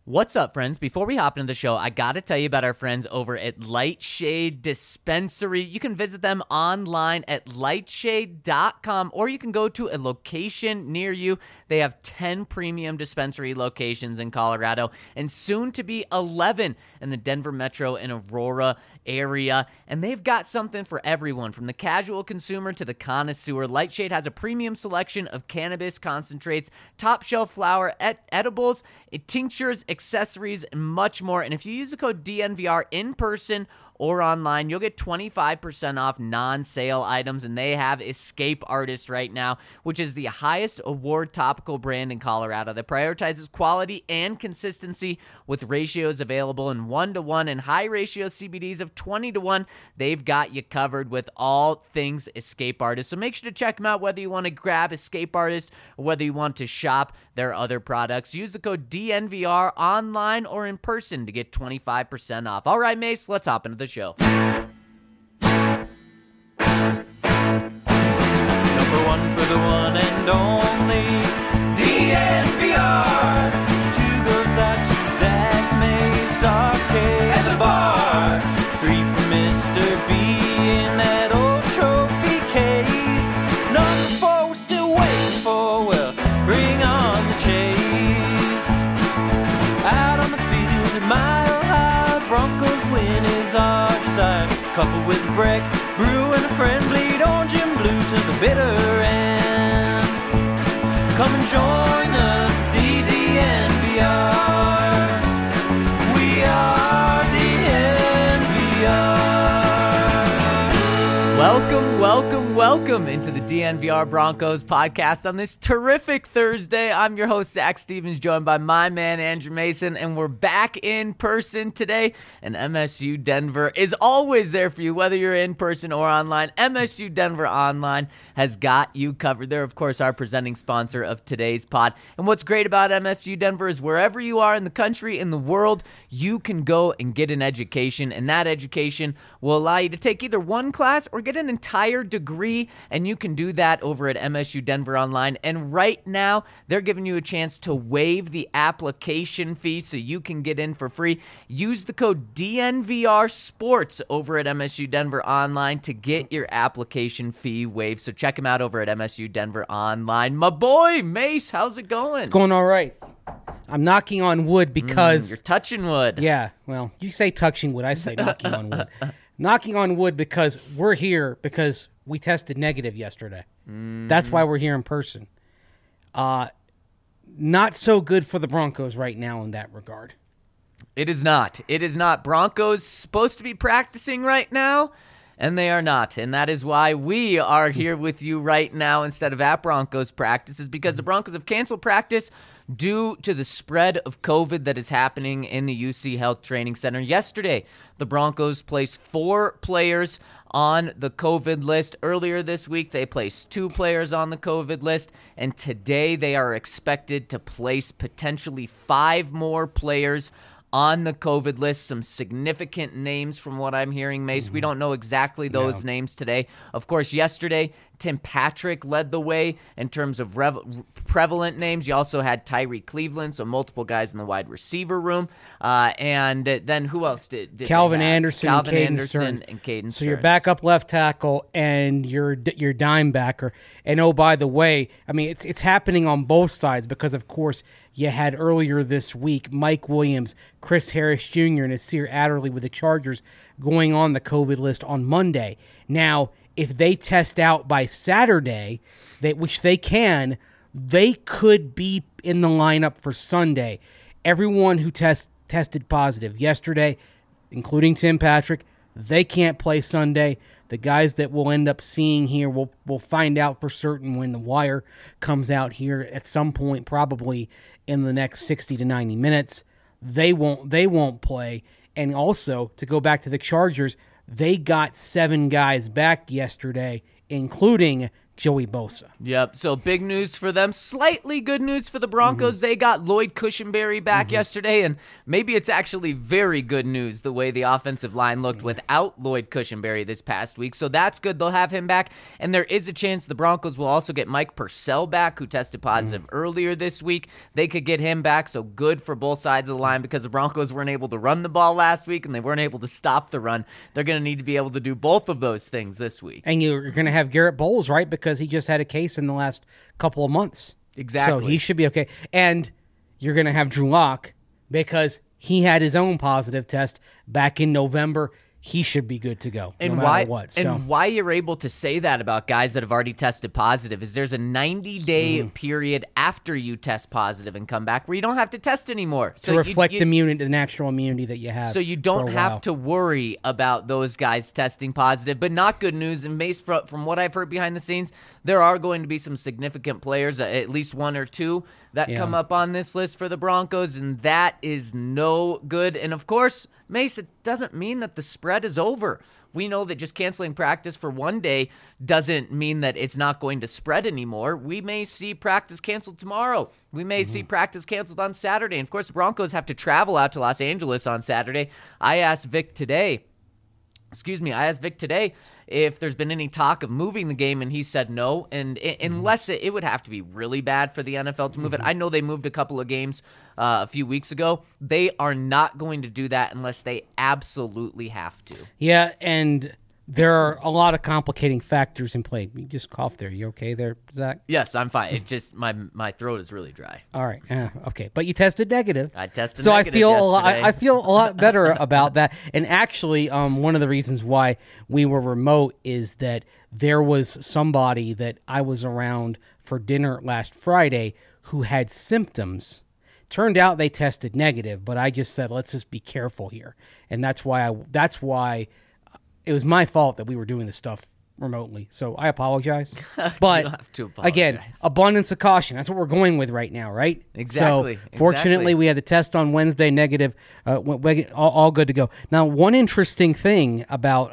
What's up, friends? Before we hop into the show, I got to tell you about our friends over at Lightshade Dispensary. You can visit them online at lightshade.com, or you can go to a location near you. They have 10 premium dispensary locations in Colorado, and soon to be 11 in the Denver metro and Aurora area. And they've got something for everyone, from the casual consumer to the connoisseur. Lightshade has a premium selection of cannabis concentrates, top shelf flower, edibles, tinctures, accessories, and much more. And if you use the code DNVR in person or online, you'll get 25% off non-sale items. And they have Escape Artist right now, which is the highest award topical brand in Colorado that prioritizes quality and consistency with ratios available in 1-to-1 and high ratio CBDs of 20-to-1. They've got you covered with all things Escape Artist. So make sure to check them out, whether you want to grab Escape Artist or whether you want to shop their other products. Use the code DNVR online or in person to get 25% off. All right, Mace, let's hop into the show. Number one for the one and only DNVR. Two goes out to Zach Mace, Arcade at the bar. Three for Mr. B in that old trophy case. Number four we're still waiting for, well, bring on the chase. Out on the field at Mile High, Broncos win is our desire. Coupled with a break, brew and a friend, bleed orange and blue to the bitter end. Come and join us, DNVR. We are DNVR. Welcome into the DNVR Broncos podcast on this terrific Thursday. I'm your host, Zach Stevens, joined by my man, Andrew Mason, and we're back in person today. And MSU Denver is always there for you, whether you're in person or online. MSU Denver Online has got you covered. They're, of course, our presenting sponsor of today's pod. And what's great about MSU Denver is wherever you are in the country, in the world, you can go and get an education, and that education will allow you to take either one class or get an entire degree, and you can do that over at MSU Denver Online. And right now, they're giving you a chance to waive the application fee so you can get in for free. Use the code DNVR Sports over at MSU Denver Online to get your application fee waived. So check them out over at MSU Denver Online. My boy, Mace, how's it going? It's going all right. I'm knocking on wood because... You're touching wood. Yeah, well, you say touching wood, I say knocking on wood. Knocking on wood because we're here because we tested negative yesterday. That's why we're here in person. Not so good for the Broncos right now in that regard. It is not. It is not. Broncos supposed to be practicing right now, and they are not. And that is why we are here with you right now instead of at Broncos practices, because the Broncos have canceled practice due to the spread of COVID that is happening in the UC Health Training Center. Yesterday, the Broncos placed 4 players on the COVID list. Earlier this week, they placed 2 players on the COVID list, and today they are expected to place potentially 5 more players on the COVID list. Some significant names from what I'm hearing, Mace. We don't know exactly those names today. Of course, yesterday, Tim Patrick led the way in terms of prevalent names. You also had Tyree Cleveland, so multiple guys in the wide receiver room. And then who else did Calvin Anderson and Caden So Stearns. your backup left tackle and your dime backer. And oh, by the way, I mean, it's happening on both sides because, of course, you had earlier this week Mike Williams, Chris Harris Jr., and Nasir Adderley with the Chargers going on the COVID list on Monday. Now, if they test out by Saturday, which they can, they could be in the lineup for Sunday. Everyone who tested positive yesterday, including Tim Patrick, they can't play Sunday. The guys that we'll end up seeing here, we'll find out for certain when the wire comes out here at some point, probably in the next 60 to 90 minutes. They won't play. And also, to go back to the Chargers, they got 7 guys back yesterday, including Joey Bosa. Yep. So big news for them. Slightly good news for the Broncos. They got Lloyd Cushenberry back yesterday, and maybe it's actually very good news the way the offensive line looked without Lloyd Cushenberry this past week. So that's good. They'll have him back, and there is a chance the Broncos will also get Mike Purcell back, who tested positive earlier this week. They could get him back, so good for both sides of the line because the Broncos weren't able to run the ball last week, and they weren't able to stop the run. They're going to need to be able to do both of those things this week. And you're going to have Garrett Bowles, right? Because he just had a case in the last couple of months. Exactly. So he should be okay. And you're going to have Drew Lock because he had his own positive test back in November. He should be good to go no matter what. So. And why you're able to say that about guys that have already tested positive is there's a 90-day period after you test positive and come back where you don't have to test anymore. To reflect the natural immunity that you have. So you don't have to worry about those guys testing positive. But not good news. And based from what I've heard behind the scenes, there are going to be some significant players, at least one or two, that come up on this list for the Broncos, and that is no good. And of course, Mace, it doesn't mean that the spread is over. We know that just canceling practice for one day doesn't mean that it's not going to spread anymore. We may see practice canceled tomorrow. We may see practice canceled on Saturday. And of course, the Broncos have to travel out to Los Angeles on Saturday. I asked Vic today if there's been any talk of moving the game, and he said no. And unless it would have to be really bad for the NFL to move it. I know they moved a couple of games a few weeks ago. They are not going to do that unless they absolutely have to. Yeah, and there are a lot of complicating factors in play. You just coughed there. You okay there, Zach? Yes, I'm fine. It just my throat is really dry. All right. Okay. But you tested negative. I tested so negative I feel a lot better about that. And actually, one of the reasons why we were remote is that there was somebody that I was around for dinner last Friday who had symptoms. Turned out they tested negative, but I just said, let's just be careful here. And that's why it was my fault that we were doing this stuff remotely. So I apologize. But you don't have to apologize. Again, abundance of caution. That's what we're going with right now, right? Exactly. So fortunately, we had the test on Wednesday, negative, all good to go. Now, one interesting thing about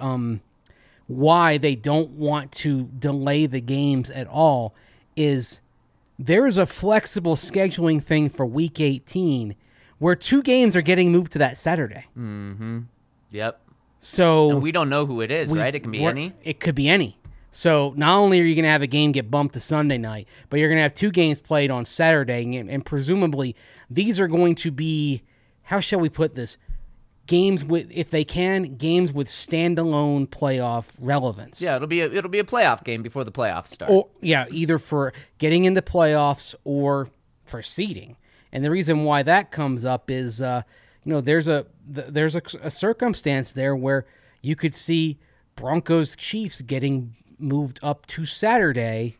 why they don't want to delay the games at all is there's a flexible scheduling thing for Week 18 where 2 games are getting moved to that Saturday. Mm-hmm. Yep. So and we don't know who it is, right? It can be any. It could be any. So not only are you going to have a game get bumped to Sunday night, but you're going to have 2 games played on Saturday, and presumably these are going to be, how shall we put this, games with, if they can, games with standalone playoff relevance. Yeah, it'll be a playoff game before the playoffs start. Or either for getting into playoffs or for seeding. And the reason why that comes up is, there's a circumstance there where you could see Broncos Chiefs getting moved up to Saturday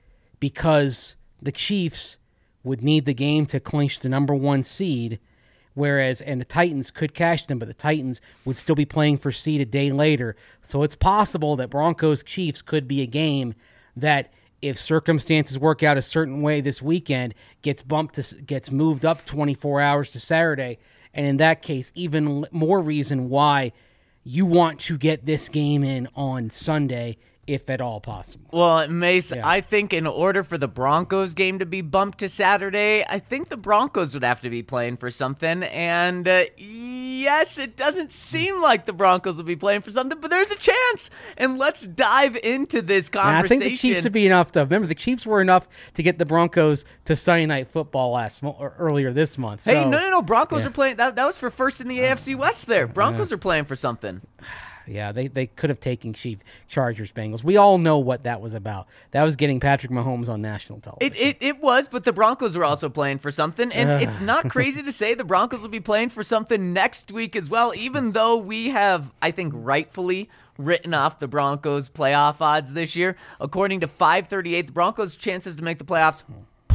because the Chiefs would need the game to clinch the number 1 seed, and the Titans could cash them, but the Titans would still be playing for seed a day later. So it's possible that Broncos Chiefs could be a game that, if circumstances work out a certain way this weekend, gets moved up 24 hours to Saturday. And in that case, even more reason why you want to get this game in on Sunday, if at all possible. Well, Mace, I think in order for the Broncos game to be bumped to Saturday, I think the Broncos would have to be playing for something. And yes, it doesn't seem like the Broncos will be playing for something, but there's a chance. And let's dive into this conversation. I think the Chiefs would be enough, though. Remember, the Chiefs were enough to get the Broncos to Sunday Night Football earlier this month. Hey, no. Broncos are playing. That was for first in the AFC West there. Broncos are playing for something. Yeah, they could have taken Chargers Bengals. We all know what that was about. That was getting Patrick Mahomes on national television. It was, but the Broncos were also playing for something, and it's not crazy to say the Broncos will be playing for something next week as well, even though we have, I think, rightfully written off the Broncos' playoff odds this year. According to 538, the Broncos' chances to make the playoffs,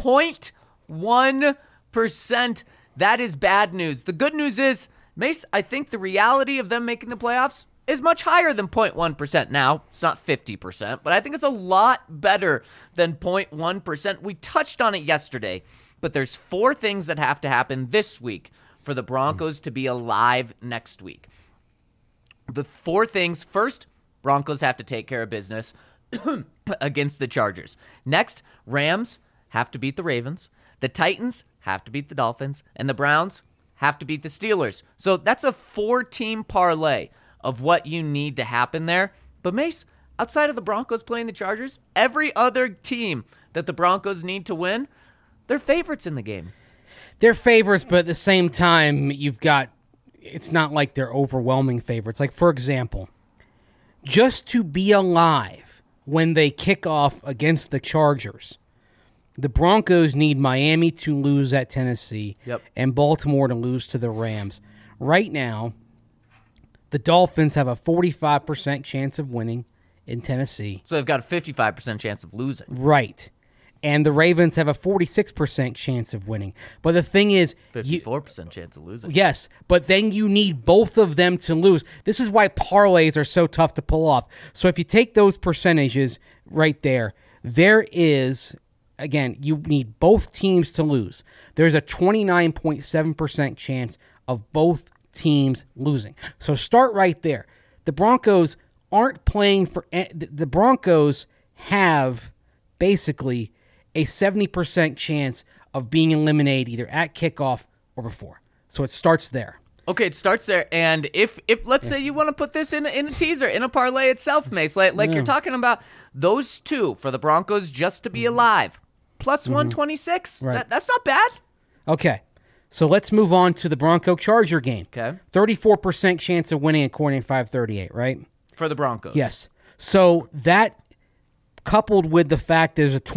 0.1%. That is bad news. The good news is, Mace, I think the reality of them making the playoffs is much higher than 0.1%. Now, it's not 50%, but I think it's a lot better than 0.1%. We touched on it yesterday, but there's 4 things that have to happen this week for the Broncos to be alive next week. The 4 things: first, Broncos have to take care of business against the Chargers. Next, Rams have to beat the Ravens. The Titans have to beat the Dolphins. And the Browns have to beat the Steelers. So that's a 4-team parlay of what you need to happen there. But Mace, outside of the Broncos playing the Chargers, every other team that the Broncos need to win, they're favorites in the game. They're favorites, but at the same time, it's not like they're overwhelming favorites. Like, for example, just to be alive when they kick off against the Chargers, the Broncos need Miami to lose at Tennessee and Baltimore to lose to the Rams. Right now, the Dolphins have a 45% chance of winning in Tennessee. So they've got a 55% chance of losing. Right. And the Ravens have a 46% chance of winning. But the thing is... 54% chance of losing. Yes, but then you need both of them to lose. This is why parlays are so tough to pull off. So if you take those percentages right there, there is... Again, you need both teams to lose. There's a 29.7% chance of both teams losing. So start right there. The Broncos aren't playing for... The Broncos have basically a 70% chance of being eliminated either at kickoff or before. So it starts there. Okay, it starts there. And if let's say you want to put this in a teaser, in a parlay itself, Mace, like you're talking about those two for the Broncos just to be alive, plus 126. Right. That's not bad. Okay, so let's move on to the Bronco-Charger game. Okay. 34% chance of winning according to 538, right? For the Broncos. Yes. So that... coupled with the fact there's a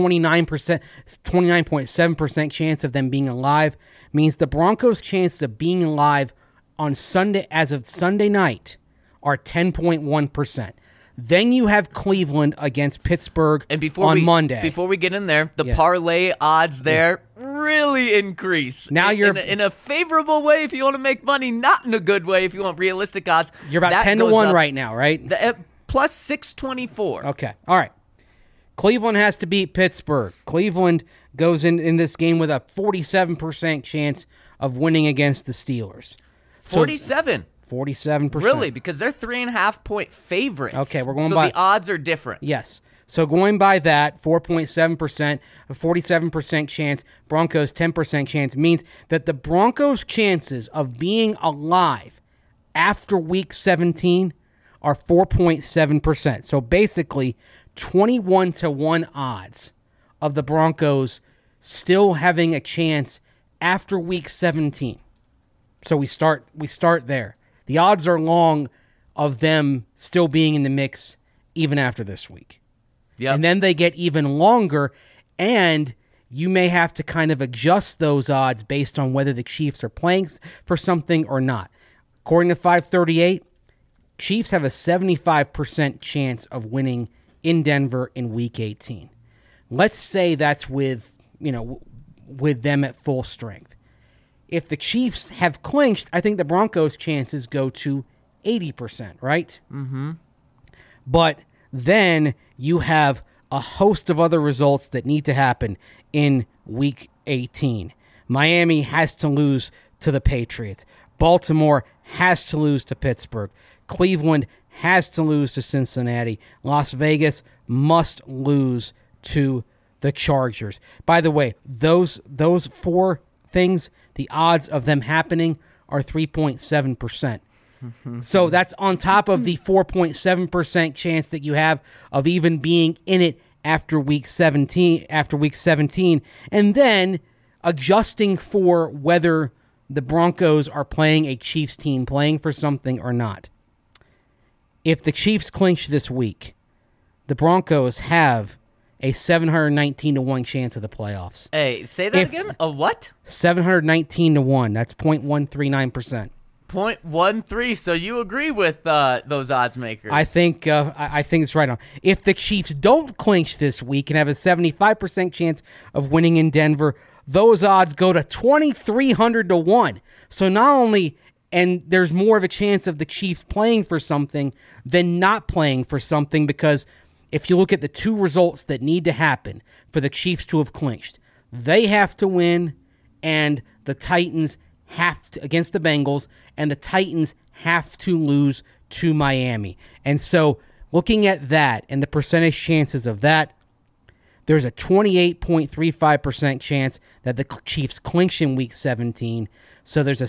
29.7% chance of them being alive, means the Broncos' chances of being alive on Sunday, as of Sunday night, are 10.1%. Then you have Cleveland against Pittsburgh on Monday. Before we get in there, the parlay odds there really increase. Now you're in a favorable way if you want to make money, not in a good way if you want realistic odds. You're about 10-1 right now, right? Plus 624. Okay. All right. Cleveland has to beat Pittsburgh. Cleveland goes in this game with a 47% chance of winning against the Steelers. 47? 47%. Really? Because they're 3.5-point favorites. Okay, we're going so by... the odds are different. Yes. So going by that, 4.7%, a 47% chance, Broncos 10% chance, means that the Broncos' chances of being alive after Week 17 are 4.7%. So basically... 21-1 odds of the Broncos still having a chance after Week 17. So we start there. The odds are long of them still being in the mix even after this week. Yep. And then they get even longer, and you may have to kind of adjust those odds based on whether the Chiefs are playing for something or not. According to 538, Chiefs have a 75% chance of winning in Denver in Week 18. Let's say that's with them at full strength. If the Chiefs have clinched, I think the Broncos' chances go to 80%, right? Mm-hmm. But then you have a host of other results that need to happen in Week 18. Miami has to lose to the Patriots. Baltimore has to lose to Pittsburgh. Cleveland has to lose to Cincinnati. Las Vegas must lose to the Chargers. By the way, those four things, the odds of them happening are 3.7%. So that's on top of the 4.7% chance that you have of even being in it after Week 17. And then adjusting for whether the Broncos are playing a Chiefs team, playing for something or not. If the Chiefs clinch this week, the Broncos have a 719-1 chance of the playoffs. Hey, say that again? A what? 719-1. That's 0.139%. 0.13. So you agree with those odds makers? I think it's right on. If the Chiefs don't clinch this week and have a 75% chance of winning in Denver, those odds go to 2,300-1. So not only... And there's more of a chance of the Chiefs playing for something than not playing for something, because if you look at the two results that need to happen for the Chiefs to have clinched, they have to win, and the Titans have to, against the Bengals, and the Titans have to lose to Miami. And so Looking at that and the percentage chances of that, there's a 28.35% chance that the Chiefs clinch in Week 17. So there's a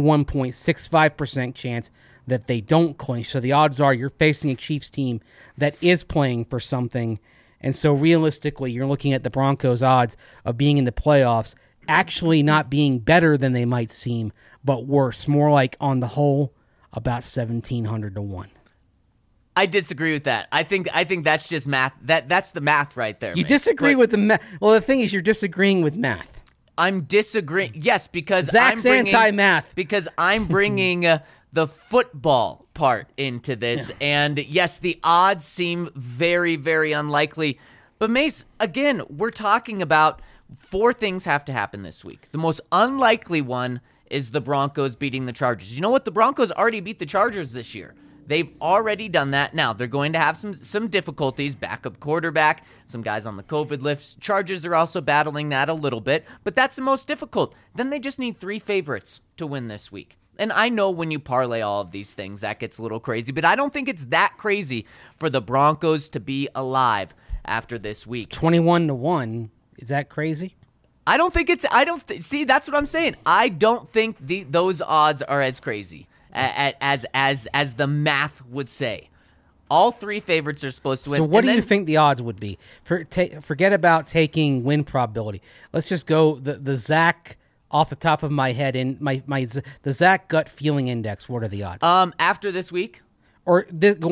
71.65% chance that they don't clinch. So the odds are you're facing a Chiefs team that is playing for something. And so realistically, you're looking at the Broncos' odds of being in the playoffs actually not being better than they might seem, but worse. More like, on the whole, about 1,700 to 1. I disagree with that. I think that's just math. That's the math right there. You man. disagree But with the math. Well, the thing is, you're disagreeing with math. I'm disagreeing. Yes, because Zach's I'm bringing, anti-math. Because I'm bringing the football part into this. Yeah. And yes, the odds seem very, very unlikely. But Mace, again, we're talking about 4 things have to happen this week. The most unlikely one is the Broncos beating the Chargers. You know what? The Broncos already beat the Chargers this year. They've already done that. Now, they're going to have some difficulties. Backup quarterback, some guys on the COVID list. Chargers are also battling that a little bit, but that's the most difficult. Then they just need 3 favorites to win this week. And I know when you parlay all of these things, that gets a little crazy, but I don't think it's that crazy for the Broncos to be alive after this week. 21 to 1. Is that crazy? I don't think it's. See, that's what I'm saying. I don't think those odds are as crazy as the math would say. All 3 favorites are supposed to win. So what do you think the odds would be? Forget about taking win probability. Let's just go the Zach off the top of my head and the Zach gut feeling index. What are the odds? After this week, or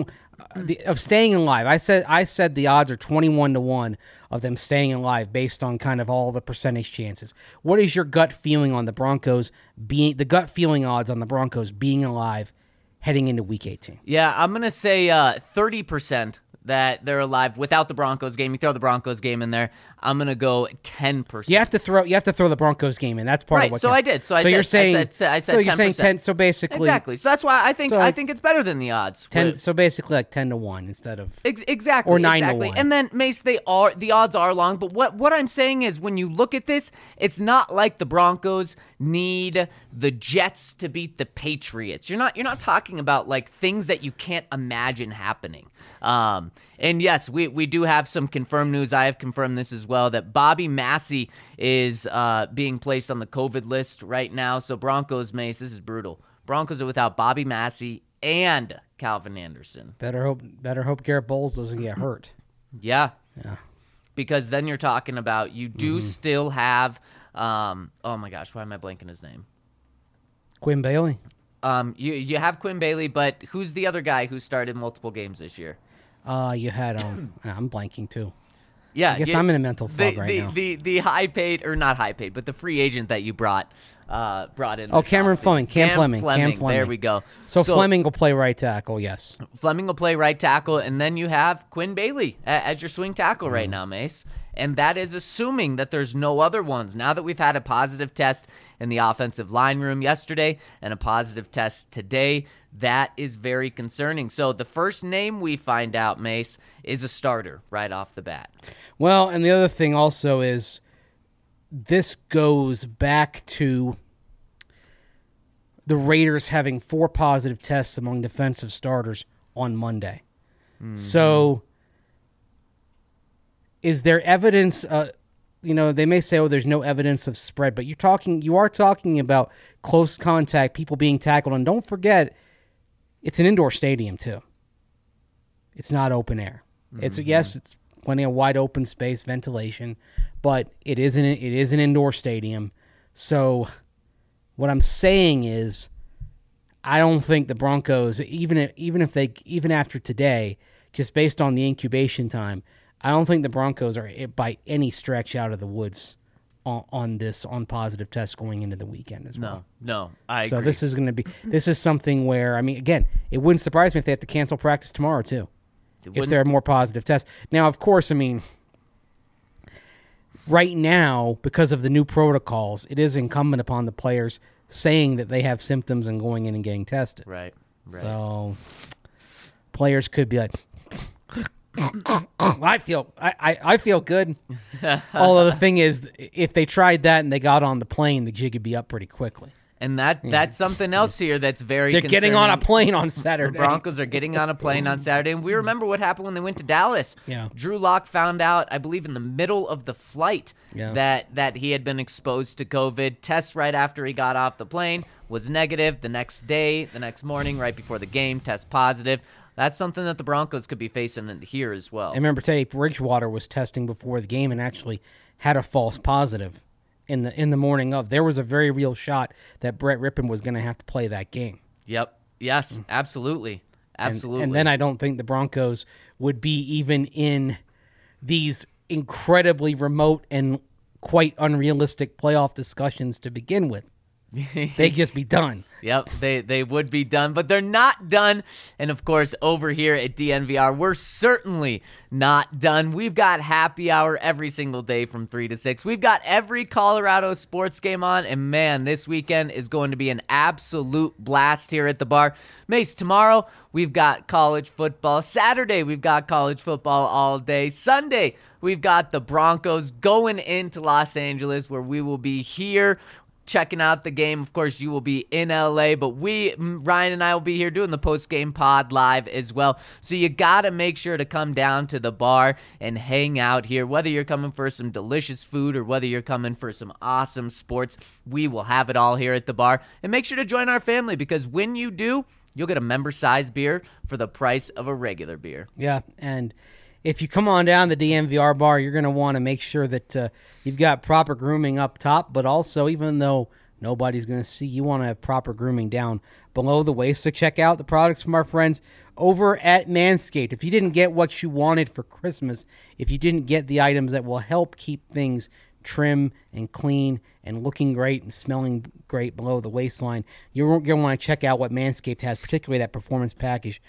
of staying alive. I said the odds are 21 to 1 of them staying alive based on kind of all the percentage chances. What is your gut feeling on the Broncos the gut feeling odds on the Broncos being alive heading into Week 18? Yeah, I'm going to say 30% that they're alive without the Broncos game. You throw the Broncos game in there, I'm going to go 10%. You have to throw the Broncos game in. That's part of what I did. So you're saying I said so you're 10%. saying 10. So basically, exactly. So that's why I think it's better than the odds. 10. So basically, like 10 to 1 instead of exactly or 9 exactly. to 1. And then Mace, the odds are long. But what I'm saying is, when you look at this, it's not like the Broncos need the Jets to beat the Patriots. You're not talking about like things that you can't imagine happening. And yes, we do have some confirmed news. I have confirmed this as well, that Bobby Massey is being placed on the COVID list right now. So Broncos, Mace, this is brutal. Broncos are without Bobby Massey and Calvin Anderson. Better hope Garrett Bowles doesn't get hurt. Yeah. Because then you're talking about you do still have oh my gosh, why am I blanking his name? Quinn Bailey. You have Quinn Bailey, but who's the other guy who started multiple games this year? You had I'm blanking too. Yeah, I guess I'm in a mental fog right now. The high paid, or not high paid, but the free agent that you brought in. Oh, Cameron Fleming. Cam Fleming. There we go. So Fleming will play right tackle. Yes. Fleming will play right tackle, and then you have Quinn Bailey as your swing tackle right now, Mace. And that is assuming that there's no other ones. Now that we've had a positive test in the offensive line room yesterday and a positive test today, that is very concerning. So the first name we find out, Mace, is a starter right off the bat. Well, and the other thing also is this goes back to the Raiders having 4 positive tests among defensive starters on Monday. Mm-hmm. So is there evidence, they may say, there's no evidence of spread, but you are talking about close contact, people being tackled. And don't forget, it's an indoor stadium too. It's not open air. Mm-hmm. It's plenty of wide open space, ventilation, but it is an indoor stadium. So what I'm saying is, I don't think the Broncos, even after today, just based on the incubation time, I don't think the Broncos are by any stretch out of the woods on positive tests going into the weekend as well. No, I agree. So this is something where, again, it wouldn't surprise me if they have to cancel practice tomorrow too, if there are more positive tests. Now, of course, right now, because of the new protocols, it is incumbent upon the players saying that they have symptoms and going in and getting tested. Right. So players could be like, I feel good. Although the thing is, if they tried that and they got on the plane, the jig would be up pretty quickly. And that's something else here that's very They're getting on a concerning. plane on The Saturday. Broncos are getting on a plane on Saturday, and we remember what happened when they went to Dallas. Yeah. Drew Lock found out, I believe, in the middle of the flight Yeah. that he had been exposed to COVID. Test right after he got off the plane was negative. The next day, the next morning, right before the game, test positive. That's something that the Broncos could be facing here as well. I remember Teddy Bridgewater was testing before the game and actually had a false positive in the morning of. There was a very real shot that Brett Rippon was going to have to play that game. Yep. Yes, absolutely. Absolutely. And then I don't think the Broncos would be even in these incredibly remote and quite unrealistic playoff discussions to begin with. They'd just be done. Yep, they would be done, but they're not done. And of course, over here at DNVR, we're certainly not done. We've got happy hour every single day from 3 to 6. We've got every Colorado sports game on, and man, this weekend is going to be an absolute blast here at the bar. Mace, tomorrow we've got college football. Saturday we've got college football all day. Sunday we've got the Broncos going into Los Angeles, where we will be here checking out the game. Of course, you will be in LA, but Ryan and I will be here doing the post-game pod live as well. So you got to make sure to come down to the bar and hang out here. Whether you're coming for some delicious food or whether you're coming for some awesome sports, we will have it all here at the bar. And make sure to join our family, because when you do, you'll get a member-sized beer for the price of a regular beer. Yeah, and if you come on down the DNVR bar, you're going to want to make sure that you've got proper grooming up top, but also, even though nobody's going to see, you want to have proper grooming down below the waist. So check out the products from our friends over at Manscaped. If you didn't get what you wanted for Christmas, if you didn't get the items that will help keep things trim and clean and looking great and smelling great below the waistline, you're going to want to check out what Manscaped has, particularly that Performance Package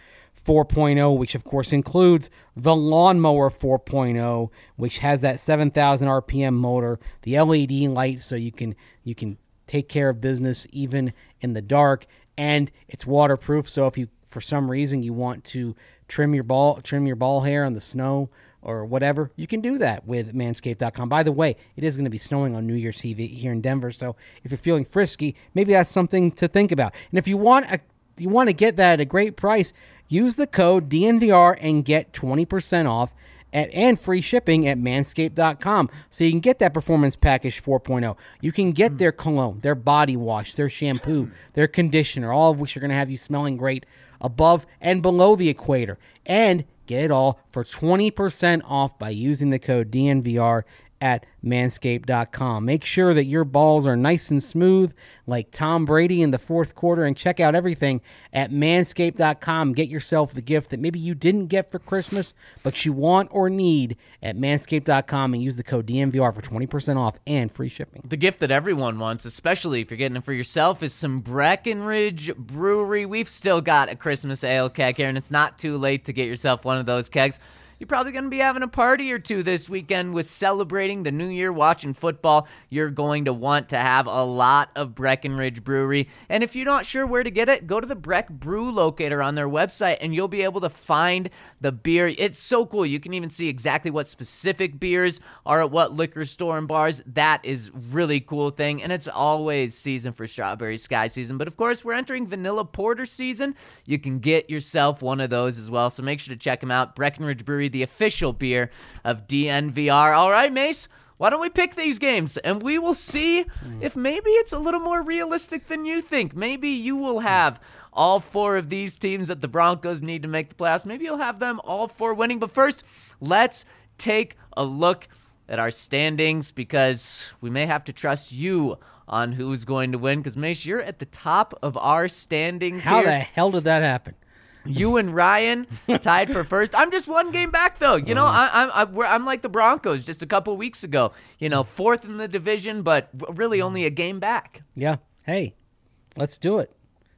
4.0, which of course includes the Lawnmower 4.0, which has that 7,000 RPM motor, the LED light, so you can take care of business even in the dark, and it's waterproof. So if you, for some reason, you want to trim your ball hair on the snow or whatever, you can do that with Manscaped.com. By the way, it is going to be snowing on New Year's Eve here in Denver, so if you're feeling frisky, maybe that's something to think about. And if you want to get that at a great price, use the code DNVR and get 20% off and free shipping at Manscaped.com. So you can get that Performance Package 4.0. You can get their cologne, their body wash, their shampoo, their conditioner, all of which are going to have you smelling great above and below the equator. And get it all for 20% off by using the code DNVR at Manscaped.com. Make sure that your balls are nice and smooth like Tom Brady in the fourth quarter, and check out everything at Manscaped.com. Get yourself the gift that maybe you didn't get for Christmas, but you want or need at Manscaped.com, and use the code DNVR for 20% off and free shipping. The gift that everyone wants, especially if you're getting it for yourself, is some Breckenridge Brewery. We've still got a Christmas ale keg here, and it's not too late to get yourself one of those kegs. You're probably going to be having a party or two this weekend with celebrating the new year, watching football. You're going to want to have a lot of Breckenridge Brewery. And if you're not sure where to get it, go to the Breck Brew Locator on their website, and you'll be able to find the beer. It's so cool. You can even see exactly what specific beers are at what liquor store and bars. That is really cool thing. And it's always season for Strawberry Sky season. But of course, we're entering Vanilla Porter season. You can get yourself one of those as well. So make sure to check them out. Breckenridge Brewery, the official beer of DNVR. All right, Mace, why don't we pick these games, and we will see if maybe it's a little more realistic than you think. Maybe you will have all four of these teams that the Broncos need to make the playoffs. Maybe you'll have them all four winning. But first, let's take a look at our standings, because we may have to trust you on who's going to win, because, Mace, you're at the top of our standings How here. the hell did that happen? You and Ryan tied for first. I'm just one game back, though. You know, I'm like the Broncos just a couple weeks ago. You know, fourth in the division, but really only a game back. Yeah. Hey, let's do it.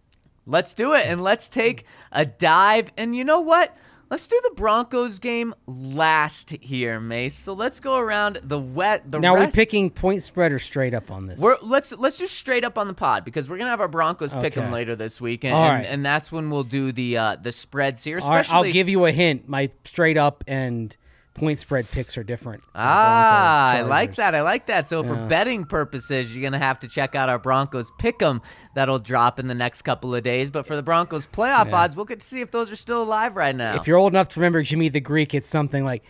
Let's do it, and let's take a dive. And you know what? Let's do the Broncos game last here, Mace. So let's go around the Now, rest. we're picking point spread or straight up on this? Let's just straight up on the pod, because we're gonna have our Broncos pick 'em later this week, and, All right. and that's when we'll do the spreads here. All right, Especially, I'll give you a hint. My straight up and point spread picks are different. I like that. I like that. So for betting purposes, you're going to have to check out our Broncos Pick'em that'll drop in the next couple of days. But for the Broncos playoff odds, we'll get to see if those are still alive right now. If you're old enough to remember Jimmy the Greek, it's something like,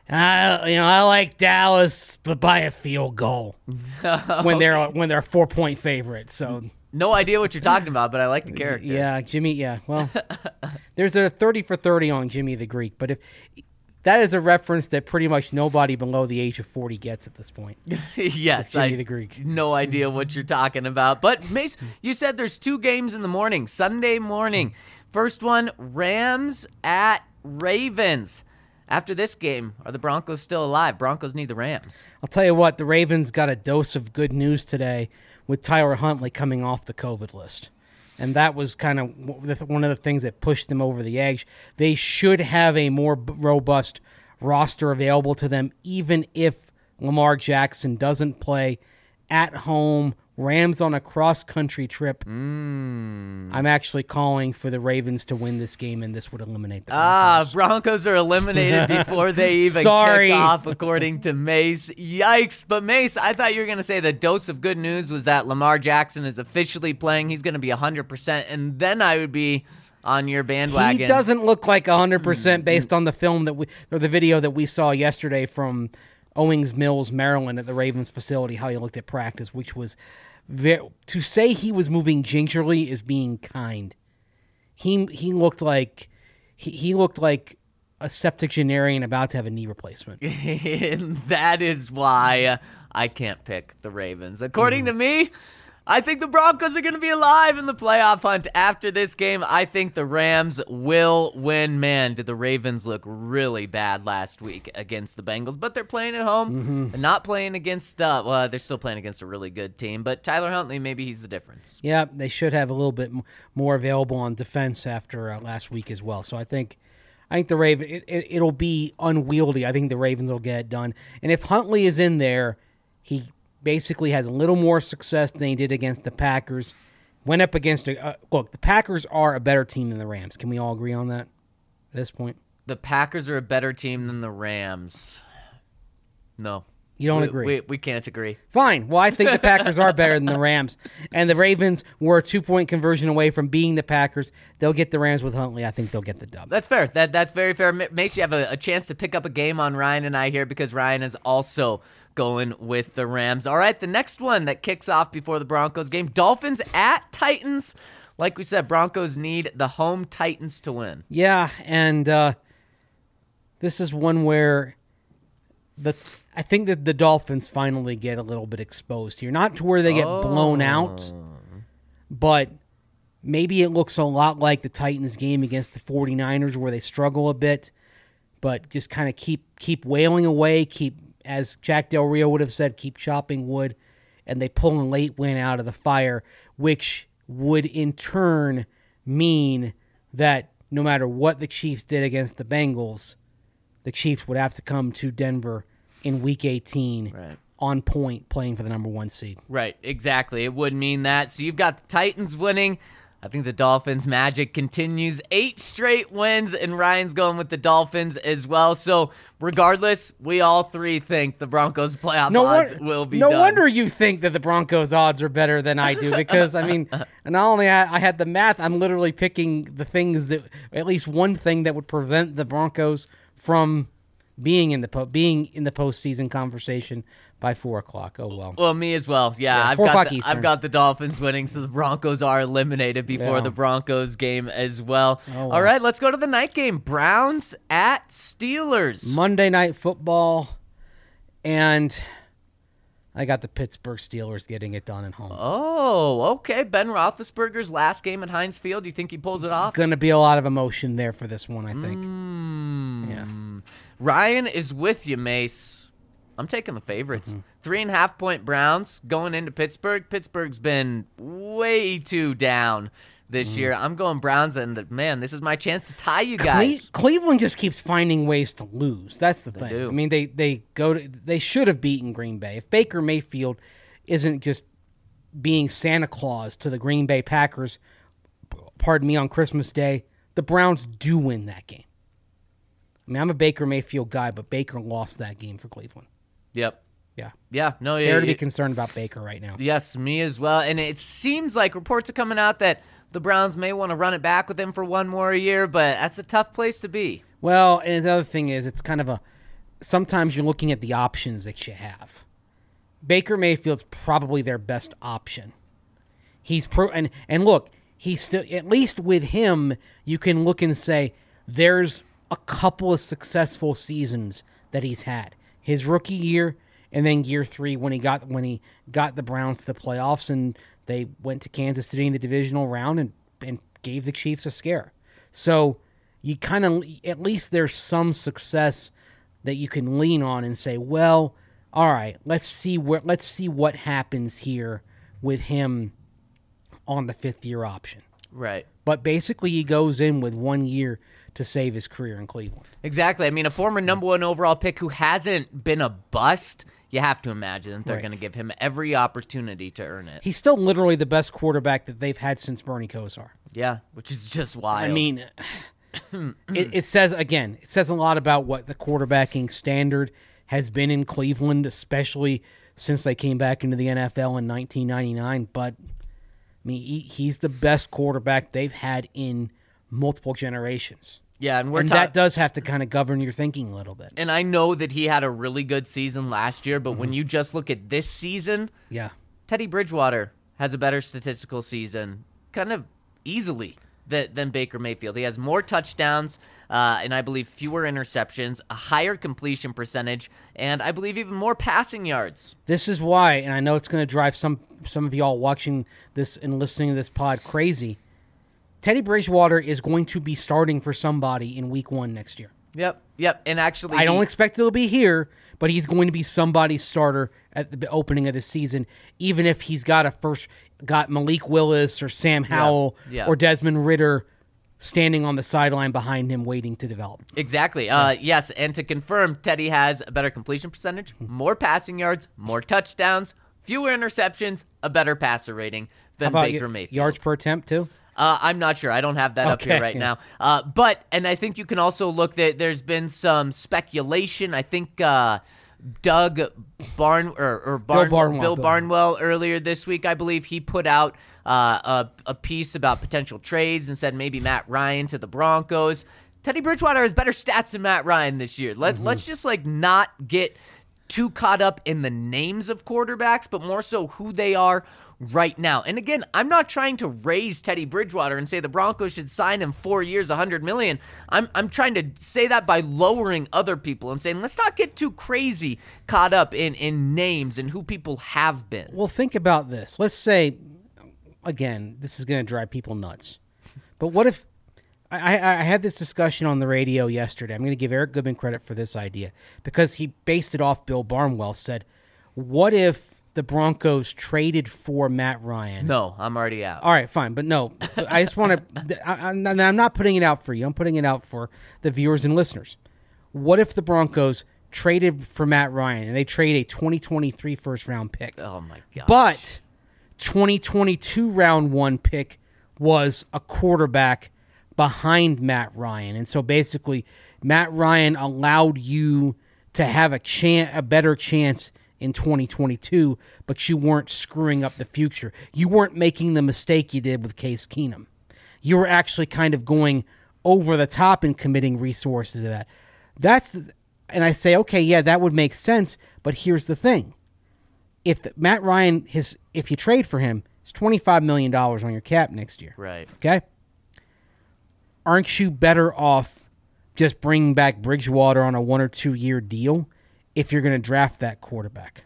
I like Dallas, but by a field goal when they're a 4-point favorite. So no idea what you're talking about, but I like the character. Yeah, Jimmy. Yeah, well, there's a 30 for 30 on Jimmy the Greek, but if that is a reference that pretty much nobody below the age of 40 gets at this point. Yes, Jimmy the Greek. No idea what you're talking about. But Mace, you said there's 2 games in the morning, Sunday morning. First one, Rams at Ravens. After this game, are the Broncos still alive? Broncos need the Rams. I'll tell you what, the Ravens got a dose of good news today with Tyler Huntley coming off the COVID list. And that was kind of one of the things that pushed them over the edge. They should have a more robust roster available to them, even if Lamar Jackson doesn't play at home. Rams on a cross-country trip. I'm actually calling for the Ravens to win this game, and this would eliminate the Broncos. Broncos are eliminated before they even kick off, according to Mace. Yikes. But Mace, I thought you were going to say the dose of good news was that Lamar Jackson is officially playing. He's going to be 100%, and then I would be on your bandwagon. He doesn't look like 100% based on the film or the video that we saw yesterday from Owings Mills, Maryland, at the Ravens facility, how he looked at practice, which was to say he was moving gingerly is being kind. He looked like he looked like a septuagenarian about to have a knee replacement. And that is why I can't pick the Ravens. According to me, I think the Broncos are going to be alive in the playoff hunt after this game. I think the Rams will win. Man, did the Ravens look really bad last week against the Bengals, but they're playing at home and not playing against, they're still playing against a really good team, but Tyler Huntley, maybe he's the difference. Yeah, they should have a little bit more available on defense after last week as well. So I think the Ravens, it'll be unwieldy. I think the Ravens will get it done. And if Huntley is in there, he basically has a little more success than he did against the Packers. Went up against look, the Packers are a better team than the Rams. Can we all agree on that at this point? The Packers are a better team than the Rams. No. You don't agree? We can't agree. Fine. Well, I think the Packers are better than the Rams. And the Ravens were a 2-point conversion away from being the Packers. They'll get the Rams with Huntley. I think they'll get the dub. That's fair. That's very fair. Mace, you have a chance to pick up a game on Ryan and I here because Ryan is also going with the Rams. All right, the next one that kicks off before the Broncos game, Dolphins at Titans. Like we said, Broncos need the home Titans to win. Yeah, and this is one where I think that the Dolphins finally get a little bit exposed here. Not to where they get blown out, but maybe it looks a lot like the Titans game against the 49ers where they struggle a bit, but just kind of keep wailing away, as Jack Del Rio would have said, keep chopping wood, and they pull a late win out of the fire, which would in turn mean that no matter what the Chiefs did against the Bengals, the Chiefs would have to come to Denver in Week 18 on point playing for the number 1 seed. Right, exactly. It would mean that. So you've got the Titans winning. I think the Dolphins' magic continues. 8 straight wins, and Ryan's going with the Dolphins as well. So regardless, we all three think the Broncos' playoff odds will be done. No wonder you think that the Broncos' odds are better than I do because, I mean, not only I had the math, I'm literally picking the things that, at least one thing that would prevent the Broncos from being in the postseason conversation by 4 o'clock. Oh, well. Well, me as well. Yeah, I've got the Dolphins winning, so the Broncos are eliminated before the Broncos game as well. Oh, wow. All right, let's go to the night game. Browns at Steelers. Monday Night Football, and I got the Pittsburgh Steelers getting it done at home. Oh, okay. Ben Roethlisberger's last game at Heinz Field. Do you think he pulls it off? Going to be a lot of emotion there for this one, I think. Yeah. Ryan is with you, Mace. I'm taking the favorites. 3.5-point Browns going into Pittsburgh. Pittsburgh's been way too down this year. I'm going Browns, and man, this is my chance to tie you guys. Cleveland just keeps finding ways to lose. That's the thing. Do. I mean, they should have beaten Green Bay. If Baker Mayfield isn't just being Santa Claus to the Green Bay Packers, on Christmas Day, the Browns do win that game. I mean, I'm a Baker Mayfield guy, but Baker lost that game for Cleveland. Yep. Yeah. Yeah. No. Fair to be concerned about Baker right now. Yes, me as well. And it seems like reports are coming out that the Browns may want to run it back with him for one more year, but that's a tough place to be. Well, and the other thing is, it's kind of sometimes you're looking at the options that you have. Baker Mayfield's probably their best option. He's and look, he's still, at least with him, you can look and say there's a couple of successful seasons that he's had. His rookie year and then year 3 when he got the Browns to the playoffs and they went to Kansas City in the divisional round and gave the Chiefs a scare. So you kind of, at least there's some success that you can lean on and say, well, all right, let's see what happens here with him on the 5th-year option. Right. But basically he goes in with 1 year to save his career in Cleveland. Exactly. I mean, a former number 1 overall pick who hasn't been a bust, you have to imagine that they're going to give him every opportunity to earn it. He's still literally the best quarterback that they've had since Bernie Kosar. Yeah, which is just wild. I mean, it says a lot about what the quarterbacking standard has been in Cleveland, especially since they came back into the NFL in 1999. But, I mean, he's the best quarterback they've had in multiple generations. Yeah, and that does have to kind of govern your thinking a little bit. And I know that he had a really good season last year, but when you just look at this season, yeah, Teddy Bridgewater has a better statistical season, kind of easily, than Baker Mayfield. He has more touchdowns, and I believe fewer interceptions, a higher completion percentage, and I believe even more passing yards. This is why, and I know it's going to drive some of y'all watching this and listening to this pod crazy, Teddy Bridgewater is going to be starting for somebody in week 1 next year. Yep. And actually, I don't expect he'll be here, but he's going to be somebody's starter at the opening of the season, even if he's got Malik Willis or Sam Howell or Desmond Ridder standing on the sideline behind him waiting to develop. Exactly. Yes, and to confirm, Teddy has a better completion percentage, more passing yards, more touchdowns, fewer interceptions, a better passer rating than Baker Mayfield. Yards per attempt, too? I'm not sure. I don't have that up here right now. And I think you can also look that there's been some speculation. I think Bill Barnwell earlier this week, I believe he put out a piece about potential trades and said maybe Matt Ryan to the Broncos. Teddy Bridgewater has better stats than Matt Ryan this year. Let's just not get too caught up in the names of quarterbacks, but more so who they are right now. And again, I'm not trying to raise Teddy Bridgewater and say the Broncos should sign him 4 years, $100 million. I'm trying to say that by lowering other people and saying let's not get too crazy caught up in names and who people have been. Well, think about this. Let's say, again, this is going to drive people nuts. But what if I had this discussion on the radio yesterday. I'm going to give Eric Goodman credit for this idea because he based it off Bill Barnwell, said, what if the Broncos traded for Matt Ryan? No, I'm already out. All right, fine. But no, I just want to – I'm not putting it out for you. I'm putting it out for the viewers and listeners. What if the Broncos traded for Matt Ryan and they trade a 2023 first-round pick? Oh, my God. But 2022 round 1 pick was a quarterback behind Matt Ryan. And so basically Matt Ryan allowed you to have a better chance in 2022, but you weren't screwing up the future. You weren't making the mistake you did with Case Keenum. You were actually kind of going over the top and committing resources to that. And I say, okay, yeah, that would make sense, but here's the thing. Matt Ryan, if you trade for him, it's $25 million on your cap next year. Right. Okay? Aren't you better off just bringing back Bridgewater on a 1 or 2 year deal if you're going to draft that quarterback?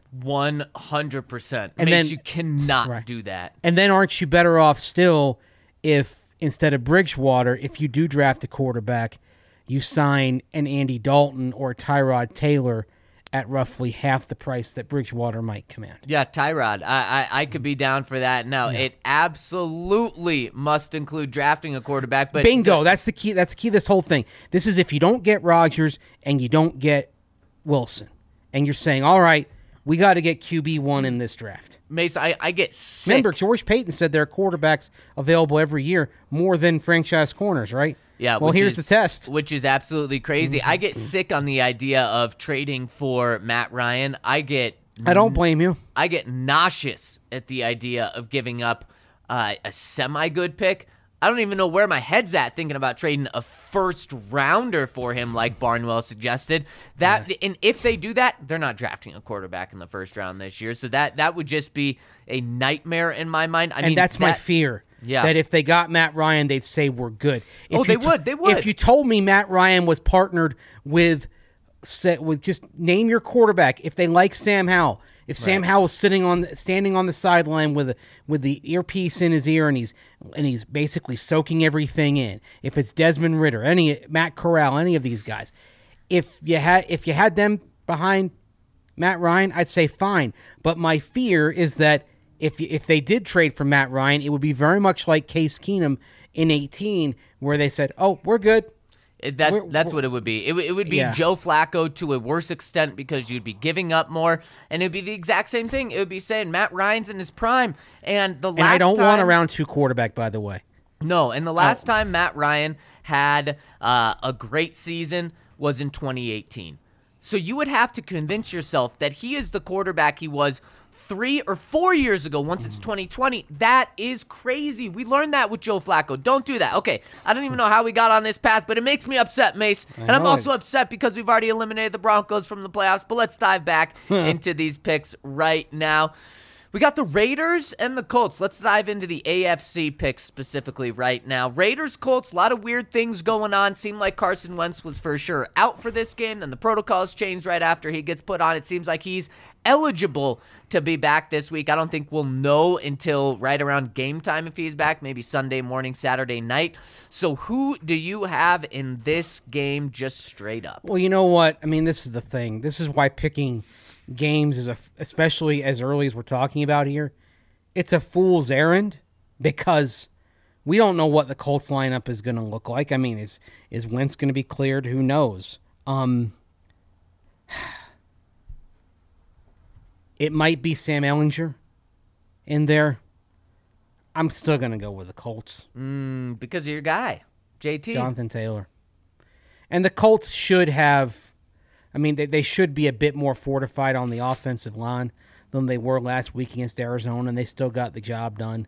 100%. And then you cannot do that. And then aren't you better off still if instead of Bridgewater, if you do draft a quarterback, you sign an Andy Dalton or Tyrod Taylor at roughly half the price that Bridgewater might command? Yeah, Tyrod. I could be down for that. Now, It absolutely must include drafting a quarterback. But bingo. That's the key. That's the key to this whole thing. This is if you don't get Rodgers and you don't get Wilson. And you're saying, all right, we got to get QB1 in this draft. Mace, I get sick. Remember, George Payton said there are quarterbacks available every year more than franchise corners, right? Yeah. Well, here's the test. Which is absolutely crazy. I get sick on the idea of trading for Matt Ryan. I don't blame you. I get nauseous at the idea of giving up a semi-good pick. I don't even know where my head's at thinking about trading a first rounder for him, like Barnwell suggested. And if they do that, they're not drafting a quarterback in the first round this year. So that would just be a nightmare in my mind. I mean, that's my fear. Yeah. That if they got Matt Ryan, they'd say we're good. They would. If you told me Matt Ryan was partnered with just name your quarterback, if they like Sam Howell. If Sam Howell is standing on the sideline with the earpiece in his ear and he's basically soaking everything in. If it's Desmond Ridder, Matt Corral, any of these guys, if you had them behind Matt Ryan, I'd say fine. But my fear is that if they did trade for Matt Ryan, it would be very much like Case Keenum in 2018, where they said, "Oh, we're good." That's what it would be. It would be Joe Flacco to a worse extent because you'd be giving up more, and it would be the exact same thing. It would be saying Matt Ryan's in his prime, and I don't want a round 2 quarterback, by the way. No, and the last time Matt Ryan had a great season was in 2018. So you would have to convince yourself that he is the quarterback he was 3 or 4 years ago once it's 2020. That is crazy. We learned that with Joe Flacco. Don't do that. Okay, I don't even know how we got on this path, but it makes me upset, Mace. And I'm also upset because we've already eliminated the Broncos from the playoffs. But let's dive back into these picks right now. We got the Raiders and the Colts. Let's dive into the AFC picks specifically right now. Raiders, Colts, a lot of weird things going on. Seemed like Carson Wentz was for sure out for this game. Then the protocols changed right after he gets put on. It seems like he's eligible to be back this week. I don't think we'll know until right around game time if he's back, maybe Sunday morning, Saturday night. So who do you have in this game just straight up? Well, you know what? I mean, this is the thing. This is why picking games is especially as early as we're talking about here, it's a fool's errand because we don't know what the Colts lineup is going to look like. I mean, is Wentz going to be cleared? Who knows? It might be Sam Ehlinger in there. I'm still going to go with the Colts. Because of your guy, JT. Jonathan Taylor. And the Colts should have, I mean, they should be a bit more fortified on the offensive line than they were last week against Arizona, and they still got the job done.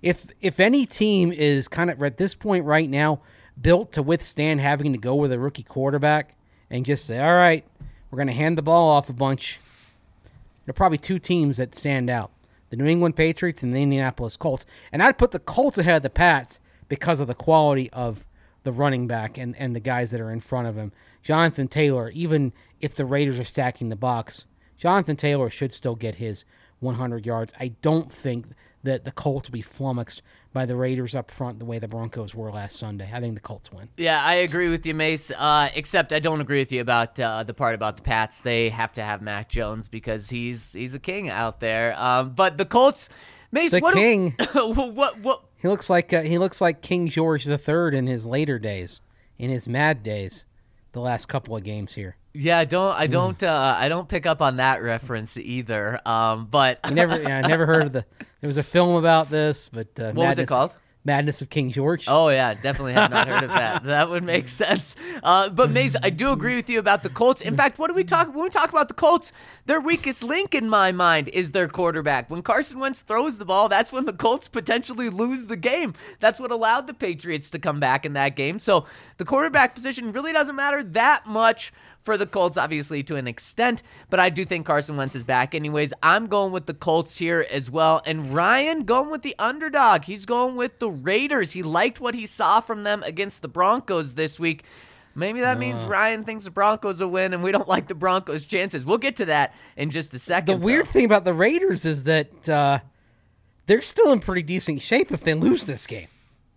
If any team is kind of, at this point right now, built to withstand having to go with a rookie quarterback and just say, all right, we're going to hand the ball off a bunch, there are probably 2 teams that stand out, the New England Patriots and the Indianapolis Colts. And I'd put the Colts ahead of the Pats because of the quality of the running back and the guys that are in front of him. Jonathan Taylor, even if the Raiders are stacking the box, Jonathan Taylor should still get his 100 yards. I don't think that the Colts will be flummoxed by the Raiders up front the way the Broncos were last Sunday. I think the Colts win. Yeah, I agree with you, Mace, except I don't agree with you about the part about the Pats. They have to have Mac Jones because he's a king out there. But the Colts, Mace, king. What? He looks like King George III in his later days, in his mad days, the last couple of games here. Yeah, I don't pick up on that reference either. But I never heard of there was a film about this, but what was it called? Madness of King George. Oh yeah, definitely have not heard of that. That would make sense. But Mace, I do agree with you about the Colts. In fact, when we talk about the Colts, their weakest link in my mind is their quarterback. When Carson Wentz throws the ball, that's when the Colts potentially lose the game. That's what allowed the Patriots to come back in that game. So the quarterback position really doesn't matter that much for the Colts, obviously, to an extent, but I do think Carson Wentz is back anyways. I'm going with the Colts here as well, and Ryan going with the underdog. He's going with the Raiders. He liked what he saw from them against the Broncos this week. Maybe that means Ryan thinks the Broncos will win, and we don't like the Broncos' chances. We'll get to that in just a second. The weird thing about the Raiders is that they're still in pretty decent shape if they lose this game.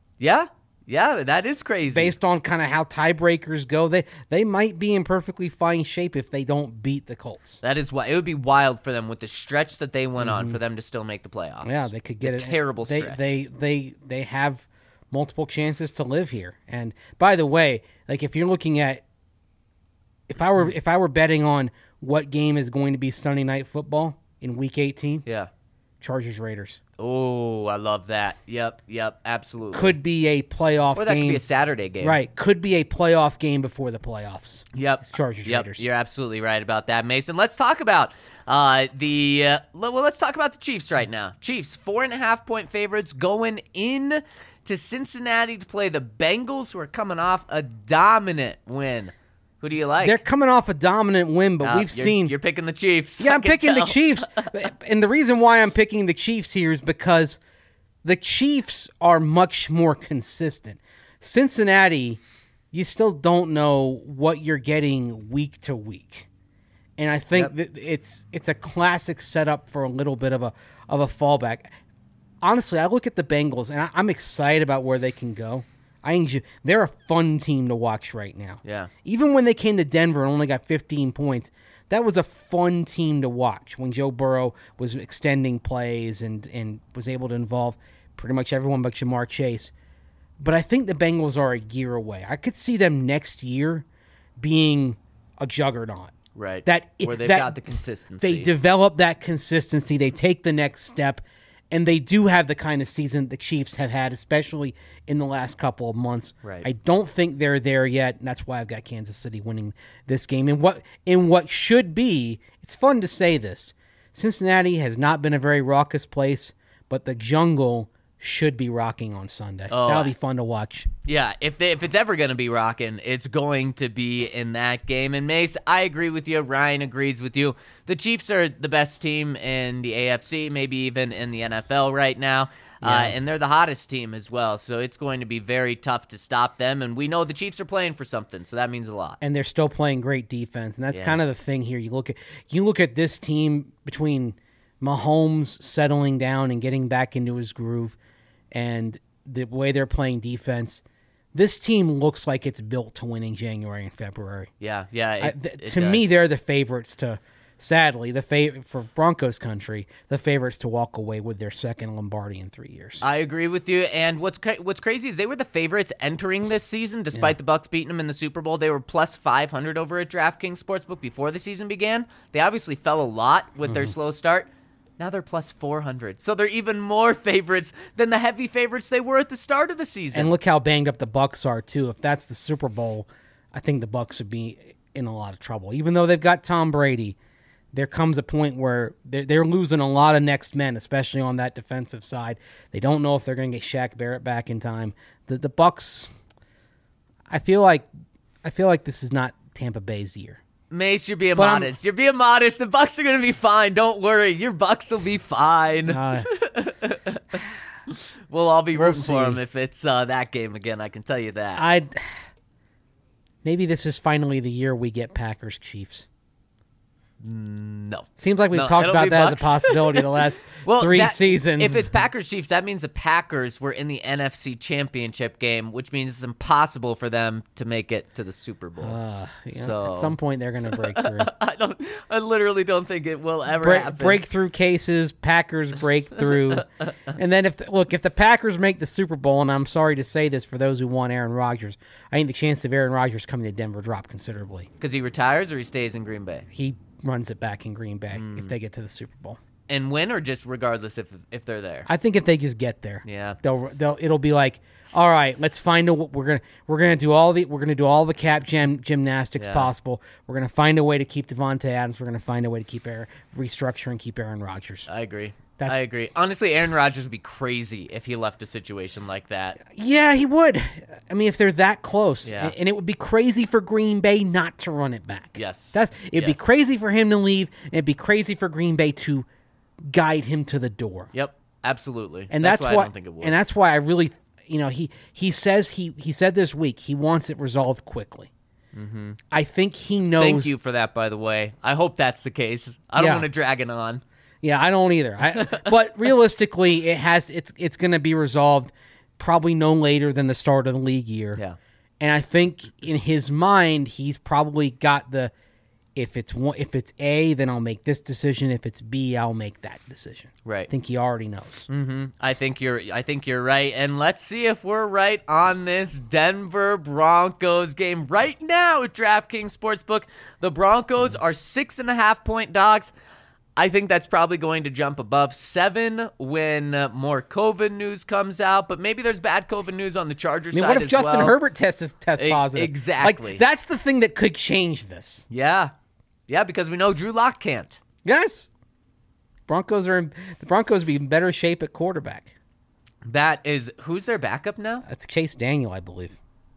Yeah, that is crazy. Based on kind of how tiebreakers go, they might be in perfectly fine shape if they don't beat the Colts. That is why it would be wild for them with the stretch that they went on for them to still make the playoffs. Yeah, they could get a terrible stretch. They have multiple chances to live here. And by the way, like if you're looking at if I were betting on what game is going to be Sunday Night Football in Week 18, yeah, Chargers Raiders. Oh, I love that. Yep, absolutely. Could be a playoff or that game. could be a Saturday game. Right. Could be a playoff game before the playoffs. Yep. It's Chargers Raiders. You're absolutely right about that, Mason. Let's talk about let's talk about the Chiefs right now. Chiefs, 4.5-point favorites going in to Cincinnati to play the Bengals, who are coming off a dominant win. Who do you like? They're coming off a dominant win, but we've seen... You're picking the Chiefs. Yeah, I I'm can picking tell. the Chiefs. And the reason why I'm picking the Chiefs here is because the Chiefs are much more consistent. Cincinnati, you still don't know what you're getting week to week. And I think that it's a classic setup for a little bit of a fallback. Honestly, I look at the Bengals, and I'm excited about where they can go. They're a fun team to watch right now. Yeah. Even when they came to Denver and only got 15 points, that was a fun team to watch when Joe Burrow was extending plays and was able to involve pretty much everyone but Jamar Chase. But I think the Bengals are a year away. I could see them next year being a juggernaut. Right. Where they've that got the consistency. They develop that consistency. They take the next step. And they do have the kind of season the Chiefs have had, especially in the last couple of months. Right. I don't think they're there yet, and that's why I've got Kansas City winning this game. And what should be, it's fun to say this, Cincinnati has not been a very raucous place, but the jungle should be rocking on Sunday. Oh, That'll be fun to watch. Yeah, if it's ever going to be rocking, it's going to be in that game. And Mace, I agree with you. Ryan agrees with you. The Chiefs are the best team in the AFC, maybe even in the NFL right now. And they're the hottest team as well. So it's going to be very tough to stop them. And we know the Chiefs are playing for something, so that means a lot. And they're still playing great defense. And that's kind of the thing here. You look at this team between Mahomes settling down and getting back into his groove and the way they're playing defense, this team looks like it's built to win in January and February. Yeah. To me, they're the favorites to, sadly, for Broncos country, the favorites to walk away with their second Lombardi in 3 years. I agree with you. And what's crazy is they were the favorites entering this season, despite the Bucs beating them in the Super Bowl. They were plus 500 over at DraftKings Sportsbook before the season began. They obviously fell a lot with their slow start. Now they're plus 400. So they're even more favorites than the heavy favorites they were at the start of the season. And look how banged up the Bucs are, too. If that's the Super Bowl, I think the Bucs would be in a lot of trouble. Even though they've got Tom Brady, there comes a point where they're losing a lot of next men, especially on that defensive side. They don't know if they're going to get Shaq Barrett back in time. The Bucs, I feel like this is not Tampa Bay's year. Mace, you're being modest. You're being modest. The Bucs are going to be fine. Don't worry. Your Bucs will be fine. We'll all be rooting for them if it's that game again. I can tell you that. Maybe this is finally the year we get Packers Chiefs. No. Seems like we've talked about that Bucs. as a possibility the last 3 seasons. If it's Packers Chiefs, that means the Packers were in the NFC Championship game, which means it's impossible for them to make it to the Super Bowl. At some point they're going to break through. I literally don't think it will ever happen. Breakthrough cases, Packers break through. And then if the Packers make the Super Bowl, and I'm sorry to say this for those who want Aaron Rodgers, I think the chance of Aaron Rodgers coming to Denver drop considerably. Because he retires or he stays in Green Bay? He runs it back in Green Bay if they get to the Super Bowl. And win, or just regardless if they're there? I think if they just get there, yeah, it'll be like, all right, let's find we're gonna do all the cap gymnastics possible. We're gonna find a way to keep Devontae Adams. We're gonna find a way to keep restructure and keep Aaron Rodgers. I agree. I agree. Honestly, Aaron Rodgers would be crazy if he left a situation like that. Yeah, he would. I mean, if they're that close. Yeah. And it would be crazy for Green Bay not to run it back. Yes. It'd be crazy for him to leave, and it'd be crazy for Green Bay to guide him to the door. Yep, absolutely. And that's why I don't think it would. And that's why I really, he says he said this week he wants it resolved quickly. Mm-hmm. I think he knows. Thank you for that, by the way. I hope that's the case. I don't want to drag it on. Yeah, I don't either. But realistically, it's going to be resolved probably no later than the start of the league year. Yeah. And I think in his mind, he's probably got if it's A, then I'll make this decision. If it's B, I'll make that decision. Right. I think he already knows. Mm-hmm. I think you're right. And let's see if we're right on this Denver Broncos game right now at DraftKings Sportsbook. The Broncos are 6.5-point dogs. I think that's probably going to jump above 7 when more COVID news comes out, but maybe there's bad COVID news on the Chargers side as well. What if Justin Herbert tests positive? Exactly. Like, that's the thing that could change this. Yeah. Yeah, because we know Drew Lock can't. Yes. The Broncos be in better shape at quarterback. That is, who's their backup now? That's Chase Daniel, I believe.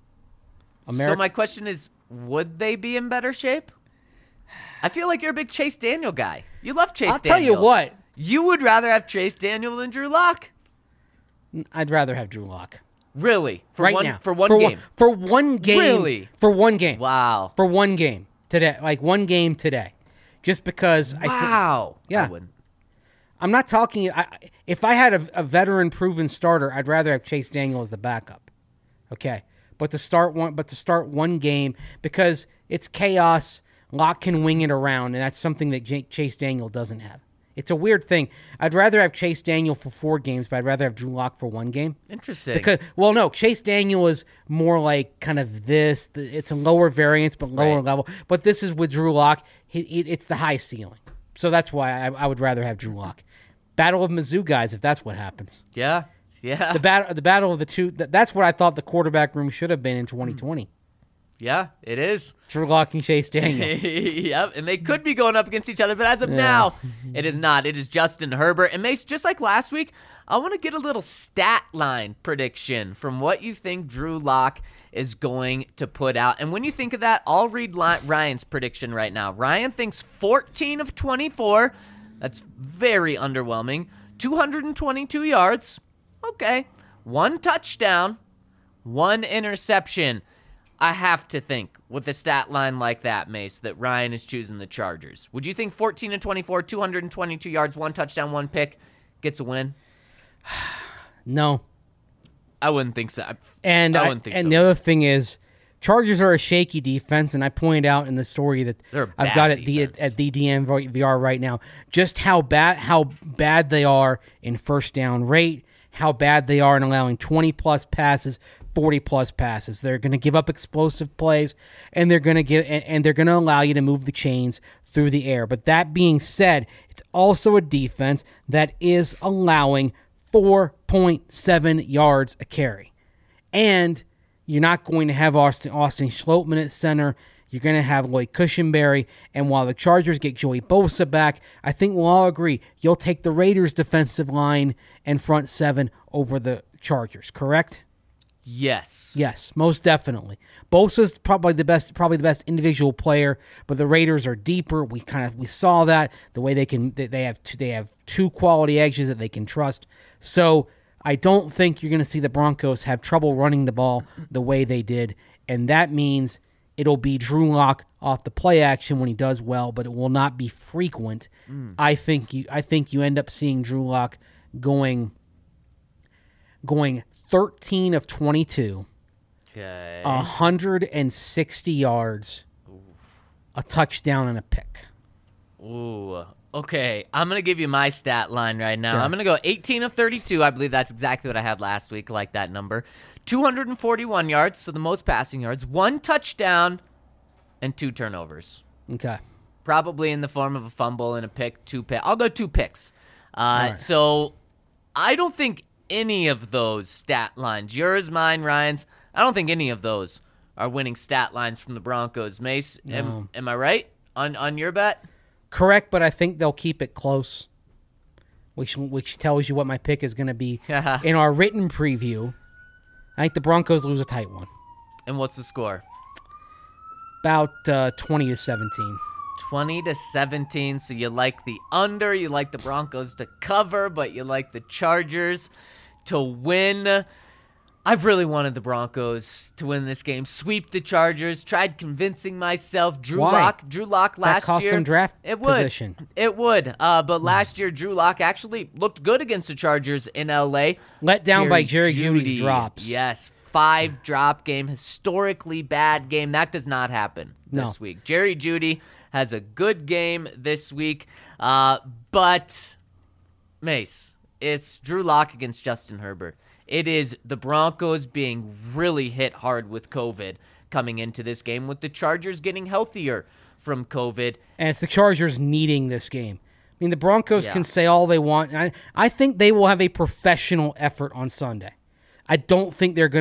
So my question is, would they be in better shape? I feel like you're a big Chase Daniel guy. You love Chase Daniel. I'll tell you what. You would rather have Chase Daniel than Drew Lock? I'd rather have Drew Lock. Really? Now. For one game? For one game. Really? For one game. Wow. For one game today. Like, one game today. Just because Wow. Yeah. I wouldn't. I'm not talking... if I had a veteran-proven starter, I'd rather have Chase Daniel as the backup. Okay? But to start one game, because it's chaos, Locke can wing it around, and that's something that Chase Daniel doesn't have. It's a weird thing. I'd rather have Chase Daniel for 4 games, but I'd rather have Drew Lock for 1 game. Interesting. Because, well, no, Chase Daniel is more like kind of this. It's a lower variance, but lower level. But this is with Drew Lock. It's the high ceiling. So that's why I would rather have Drew Lock. Battle of Mizzou guys, if that's what happens. Yeah. Yeah. The battle of the two. That's what I thought the quarterback room should have been in 2020. Yeah, it is. Drew Lock and Chase Daniel. Yep, and they could be going up against each other, but as of now, it is not. It is Justin Herbert. And Mace, just like last week, I want to get a little stat line prediction from what you think Drew Lock is going to put out. And when you think of that, I'll read Ryan's prediction right now. Ryan thinks 14 of 24. That's very underwhelming. 222 yards. Okay. 1 touchdown. 1 interception. I have to think with a stat line like that, Mace, that Ryan is choosing the Chargers. Would you think 14 and 24, 222 yards, 1 touchdown, 1 pick gets a win? No. I wouldn't think so. And I wouldn't think so. And the other thing is, Chargers are a shaky defense, and I pointed out in the story that I've got at the DNVR right now just how bad they are in first down rate, how bad they are in allowing 20-plus passes, 40-plus passes. They're going to give up explosive plays, and they're going to allow you to move the chains through the air. But that being said, it's also a defense that is allowing 4.7 yards a carry. And you're not going to have Austin Schlottman at center. You're going to have Lloyd Cushenberry. And while the Chargers get Joey Bosa back, I think we'll all agree you'll take the Raiders' defensive line and front 7 over the Chargers, correct? Yes. Yes, most definitely. Bosa's probably the best individual player, but the Raiders are deeper. We saw that the way they have 2 quality edges that they can trust. So I don't think you're going to see the Broncos have trouble running the ball the way they did, and that means it'll be Drew Lock off the play action when he does well, but it will not be frequent. I think you end up seeing Drew Lock going 13 of 22, okay, 160 yards, a touchdown, and a pick. Ooh, okay. I'm going to give you my stat line right now. Yeah. I'm going to go 18 of 32. I believe that's exactly what I had last week, like that number. 241 yards, so the most passing yards, 1 touchdown, and 2 turnovers. Okay. Probably in the form of a fumble and a pick, 2 picks. I'll go 2 picks. Right. So I don't think any of those stat lines, yours, mine, Ryan's, I don't think any of those are winning stat lines from the Broncos. Mace, No. am I right on your bet? Correct, but I think they'll keep it close, which tells you what my pick is going to be. In our written preview, I think the Broncos lose a tight one. And what's the score? About 20-17. 20-17, so you like the under, you like the Broncos to cover, but you like the Chargers to win. I've really wanted the Broncos to win this game. Sweep the Chargers. Tried convincing myself. Drew Lock last that cost year. Some draft position. It would. But last year, Drew Lock actually looked good against the Chargers in L.A. Let down by Jerry Jeudy's drops. Yes. 5 drop game. Historically bad game. That does not happen this week. Jerry Jeudy has a good game this week. But, Mace, it's Drew Lock against Justin Herbert. It is the Broncos being really hit hard with COVID coming into this game, with the Chargers getting healthier from COVID. And it's the Chargers needing this game mean, the Broncos can say all they want. And I think they will have a professional effort on Sunday. I don't think they've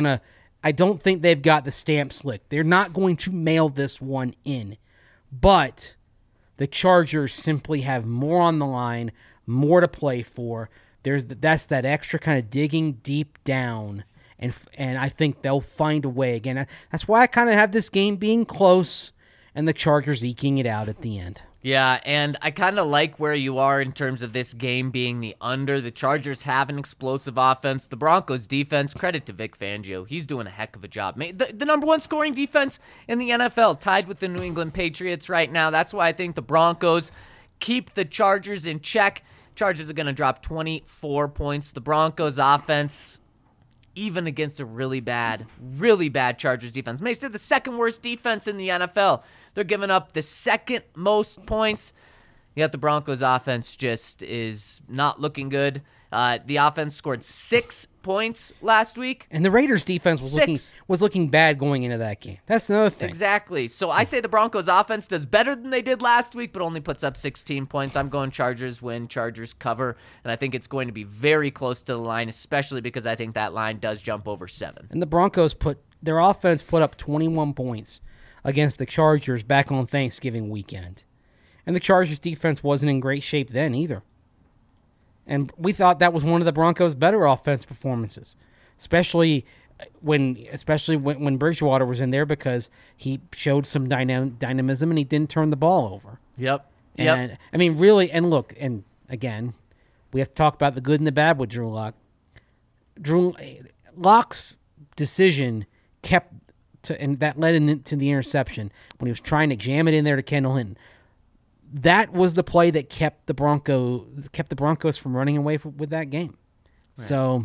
got the stamp slick. They're not going to mail this one in. But the Chargers simply have more on the line, more to play for. That's that extra kind of digging deep down. And I think they'll find a way again. That's why I kind of have this game being close and the Chargers eking it out at the end. Yeah, and I kind of like where you are in terms of this game being the under. The Chargers have an explosive offense. The Broncos defense, credit to Vic Fangio. He's doing a heck of a job. The number one scoring defense in the NFL, tied with the New England Patriots right now. That's why I think the Broncos keep the Chargers in check. Chargers are going to drop 24 points. The Broncos offense, even against a really bad Chargers defense. Mace, they're the second worst defense in the NFL. They're giving up the second most points. Yet the Broncos offense just is not looking good. The offense scored 6 points last week. And the Raiders defense was looking bad going into that game. That's another thing. Exactly. So I say the Broncos offense does better than they did last week, but only puts up 16 points. I'm going Chargers win, Chargers cover, and I think it's going to be very close to the line, especially because I think that line does jump over 7. And the Broncos their offense put up 21 points against the Chargers back on Thanksgiving weekend. And the Chargers defense wasn't in great shape then either. And we thought that was one of the Broncos' better offense performances, especially when Bridgewater was in there, because he showed some dynamism and he didn't turn the ball over. Yep. And I mean, really, and look, and again, we have to talk about the good and the bad with Drew Lock. Drew Lock's decision and that led into the interception when he was trying to jam it in there to Kendall Hinton. That was the play that kept the Broncos from running away with that game. Right. So,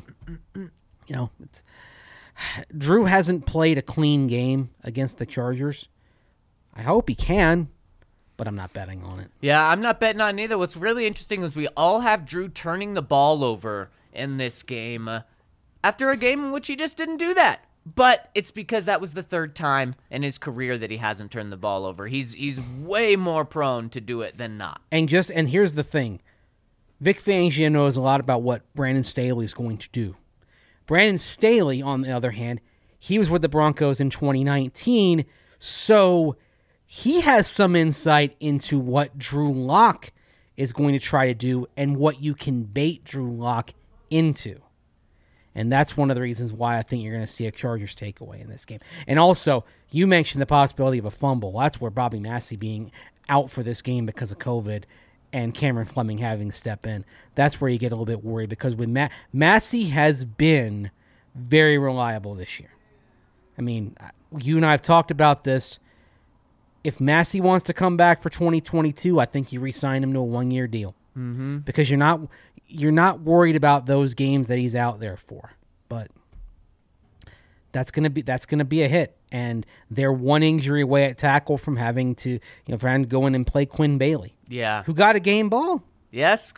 Drew hasn't played a clean game against the Chargers. I hope he can, but I'm not betting on it. Yeah, I'm not betting on it either. What's really interesting is we all have Drew turning the ball over in this game after a game in which he just didn't do that. But it's because that was the third time in his career that he hasn't turned the ball over. He's way more prone to do it than not. And here's the thing. Vic Fangio knows a lot about what Brandon Staley is going to do. Brandon Staley, on the other hand, he was with the Broncos in 2019, so he has some insight into what Drew Lock is going to try to do and what you can bait Drew Lock into. And that's one of the reasons why I think you're going to see a Chargers takeaway in this game. And also, you mentioned the possibility of a fumble. That's where Bobby Massey being out for this game because of COVID and Cameron Fleming having to step in. That's where you get a little bit worried, because with Massey has been very reliable this year. I mean, you and I have talked about this. If Massey wants to come back for 2022, I think you re-sign him to a one-year deal. Mm-hmm. Because you're not worried about those games that he's out there for. But that's gonna be a hit, and they're one injury away at tackle from having to go in and play Quinn Bailey. Yeah, who got a game ball. Yes,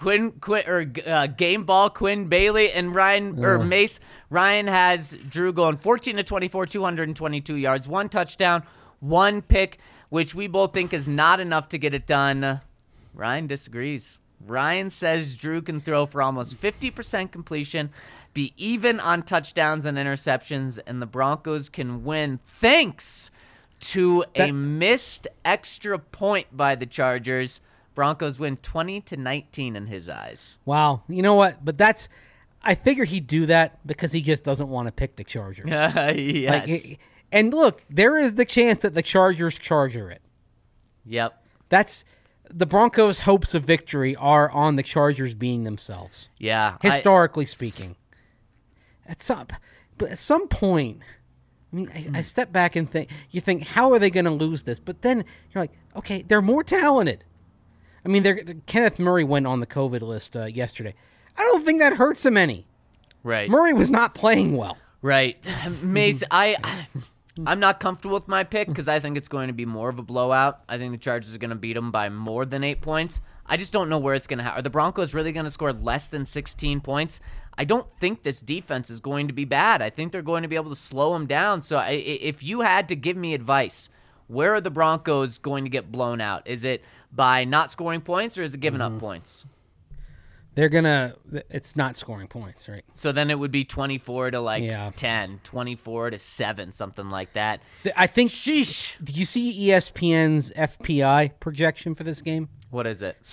game ball Quinn Bailey and Mace. Ryan has Drew going 14-24, 222 yards, 1 touchdown, 1 pick, which we both think is not enough to get it done. Ryan disagrees. Ryan says Drew can throw for almost 50% completion, be even on touchdowns and interceptions, and the Broncos can win thanks to a missed extra point by the Chargers. Broncos win 20-19 in his eyes. Wow. You know what? But I figured he'd do that because he just doesn't want to pick the Chargers. Yes. And look, there is the chance that the Chargers charger it. Yep. That's the Broncos' hopes of victory are on the Chargers being themselves. Yeah. Historically speaking. But at some point, I mean, I step back and you think, how are they going to lose this? But then you're like, okay, they're more talented. I mean, Kenneth Murray went on the COVID list yesterday. I don't think that hurts him any. Right. Murray was not playing well. Right. Mace, I'm not comfortable with my pick because I think it's going to be more of a blowout. I think the Chargers are going to beat them by more than 8 points. I just don't know where it's going to happen. Are the Broncos really going to score less than 16 points? I don't think this defense is going to be bad. I think they're going to be able to slow them down. So if you had to give me advice, where are the Broncos going to get blown out? Is it by not scoring points, or is it giving up points? It's not scoring points, right? So then it would be 24 to 10, 24 to 7, something like that. I think. Sheesh. Do you see ESPN's FPI projection for this game? What is it?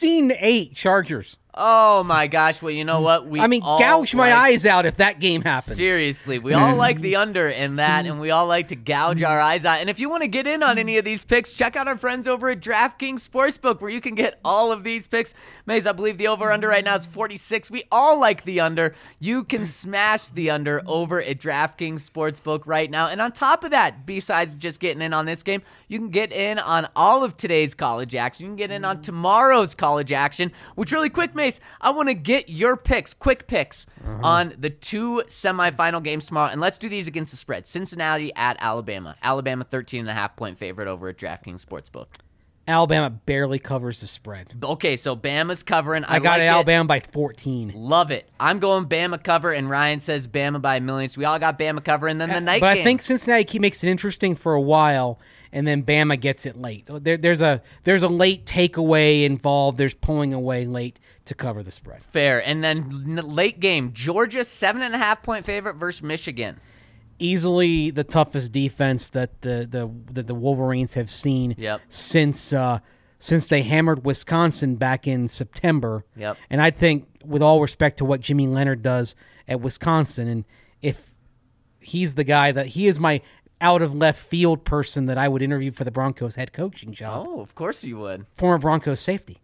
16-8 Chargers. Oh my gosh! Well, you know what? Gouge my eyes out if that game happens. Seriously, we all like the under in that, and we all like to gouge our eyes out. And if you want to get in on any of these picks, check out our friends over at DraftKings Sportsbook, where you can get all of these picks. Maze, I believe the over-under right now is 46. We all like the under. You can smash the under over at DraftKings Sportsbook right now. And on top of that, besides just getting in on this game, you can get in on all of today's college action. You can get in on tomorrow's college action, which really quick, Mace, I want to get your picks, quick picks, on the 2 semifinal games tomorrow. And let's do these against the spread. Cincinnati at Alabama. Alabama 13.5-point favorite over at DraftKings Sportsbook. Alabama barely covers the spread. Okay, so Bama's covering. I got Alabama by 14. Love it. I'm going Bama cover, and Ryan says Bama by a million. So we all got Bama cover, and then the night game. But I think Cincinnati makes it interesting for a while, and then Bama gets it late. There's a late takeaway involved. There's pulling away late to cover the spread. Fair. And then late game, Georgia 7.5-point favorite versus Michigan. Easily the toughest defense that the Wolverines have seen since they hammered Wisconsin back in September. Yep. And I think, with all respect to what Jimmy Leonard does at Wisconsin, and if he's the guy that he is my out of left field person that I would interview for the Broncos head coaching job. Oh, of course you would. Former Broncos safety.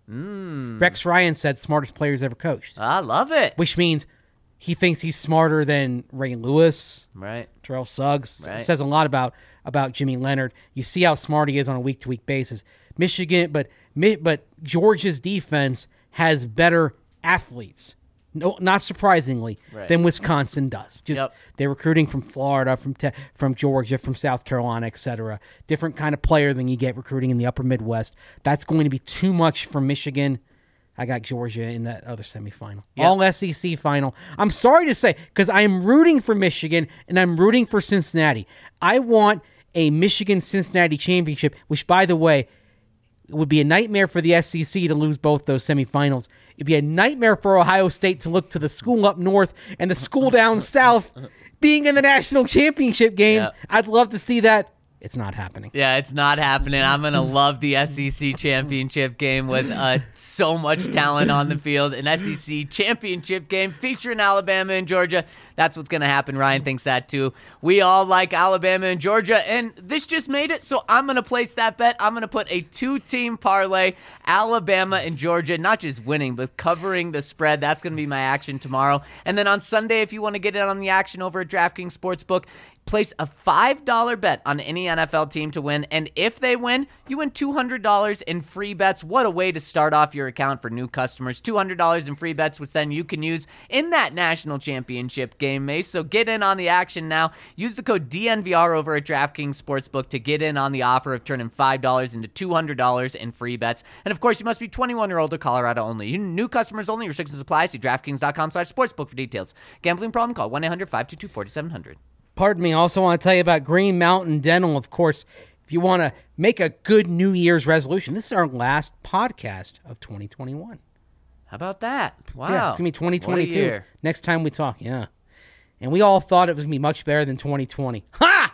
Rex Ryan said smartest players ever coached. I love it. Which means he thinks he's smarter than Ray Lewis. Right. Terrell Suggs. Right. Says a lot about Jimmy Leonard. You see how smart he is on a week-to-week basis. Michigan, but Georgia's defense has better athletes. No, not surprisingly, than Wisconsin does. They're recruiting from Florida, from Georgia, from South Carolina, etc. Different kind of player than you get recruiting in the upper Midwest. That's going to be too much for Michigan. I got Georgia in that other semifinal. Yep. All SEC final. I'm sorry to say, because I am rooting for Michigan and I'm rooting for Cincinnati. I want a Michigan-Cincinnati championship, which, by the way, it would be a nightmare for the SEC to lose both those semifinals. It'd be a nightmare for Ohio State to look to the school up north and the school down south being in the national championship game. Yep. I'd love to see that. It's not happening. Yeah, it's not happening. I'm going to love the SEC championship game with so much talent on the field. An SEC championship game featuring Alabama and Georgia. That's what's going to happen. Ryan thinks that too. We all like Alabama and Georgia, and this just made it, so I'm going to place that bet. I'm going to put a 2-team parlay, Alabama and Georgia, not just winning, but covering the spread. That's going to be my action tomorrow. And then on Sunday, if you want to get in on the action over at DraftKings Sportsbook, place a $5 bet on any NFL team to win, and if they win, you win $200 in free bets. What a way to start off your account for new customers. $200 in free bets, which then you can use in that national championship game, Mace. So get in on the action now. Use the code DNVR over at DraftKings Sportsbook to get in on the offer of turning $5 into $200 in free bets. And of course, you must be 21 or older, Colorado only. New customers only. Restrictions apply. See DraftKings.com/sportsbook for details. Gambling problem? Call 1-800-522-4700. Pardon me. I also want to tell you about Green Mountain Dental. Of course, if you want to make a good New Year's resolution, this is our last podcast of 2021. How about that? Wow. Yeah, it's going to be 2022 What a year. next time we talk. Yeah. And we all thought it was going to be much better than 2020. Ha!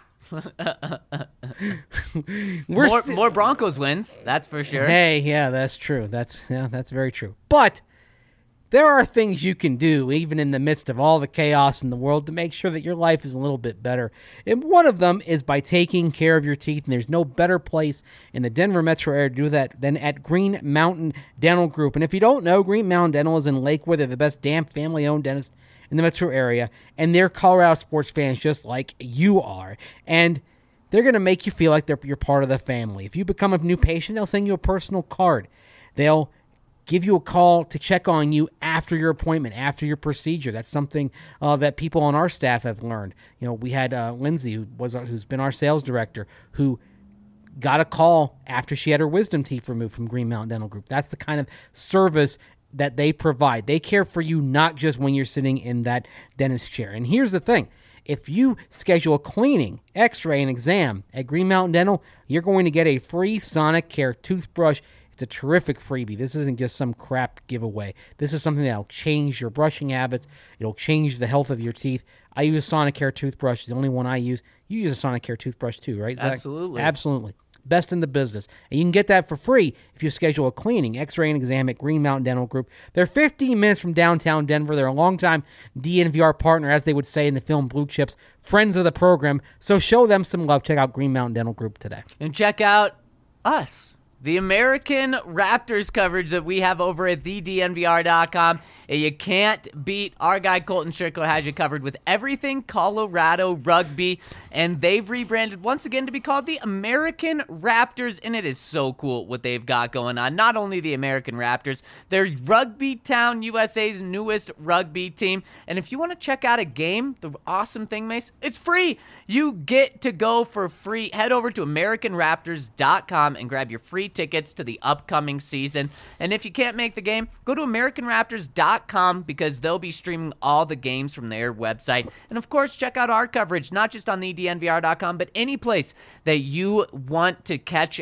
More Broncos wins, that's for sure. Hey, yeah, that's true. That's very true. But there are things you can do, even in the midst of all the chaos in the world, to make sure that your life is a little bit better. And one of them is by taking care of your teeth. And there's no better place in the Denver metro area to do that than at Green Mountain Dental Group. And if you don't know, Green Mountain Dental is in Lakewood. They're the best damn family-owned dentist in the metro area. And they're Colorado sports fans just like you are. And they're going to make you feel like you're part of the family. If you become a new patient, they'll send you a personal card. They'll give you a call to check on you after your appointment, after your procedure. That's something that people on our staff have learned. You know, we had Lindsay, who's been our sales director, who got a call after she had her wisdom teeth removed from Green Mountain Dental Group. That's the kind of service that they provide. They care for you not just when you're sitting in that dentist chair. And here's the thing. If you schedule a cleaning, x-ray, and exam at Green Mountain Dental, you're going to get a free Sonicare toothbrush. It's a terrific freebie. This isn't just some crap giveaway. This is something that'll change your brushing habits. It'll change the health of your teeth. I use a Sonicare toothbrush. It's the only one I use. You use a Sonicare toothbrush too, right, Zach? Absolutely. Absolutely. Best in the business. And you can get that for free if you schedule a cleaning, x-ray, and exam at Green Mountain Dental Group. They're 15 minutes from downtown Denver. They're a longtime DNVR partner, as they would say in the film Blue Chips, friends of the program. So show them some love. Check out Green Mountain Dental Group today. And check out us, the American Raptors coverage that we have over at thednvr.com. You can't beat our guy Colton Strickler has you covered with everything Colorado rugby, and they've rebranded once again to be called the American Raptors, and it is so cool what they've got going on. Not only the American Raptors, they're Rugby Town USA's newest rugby team, and if you want to check out a game, the awesome thing, Mace, it's free. You get to go for free. Head over to AmericanRaptors.com and grab your free tickets to the upcoming season, and if you can't make the game, go to AmericanRaptors.com because they'll be streaming all the games from their website. And of course, check out our coverage, not just on the DNVR.com, but any place that you want to catch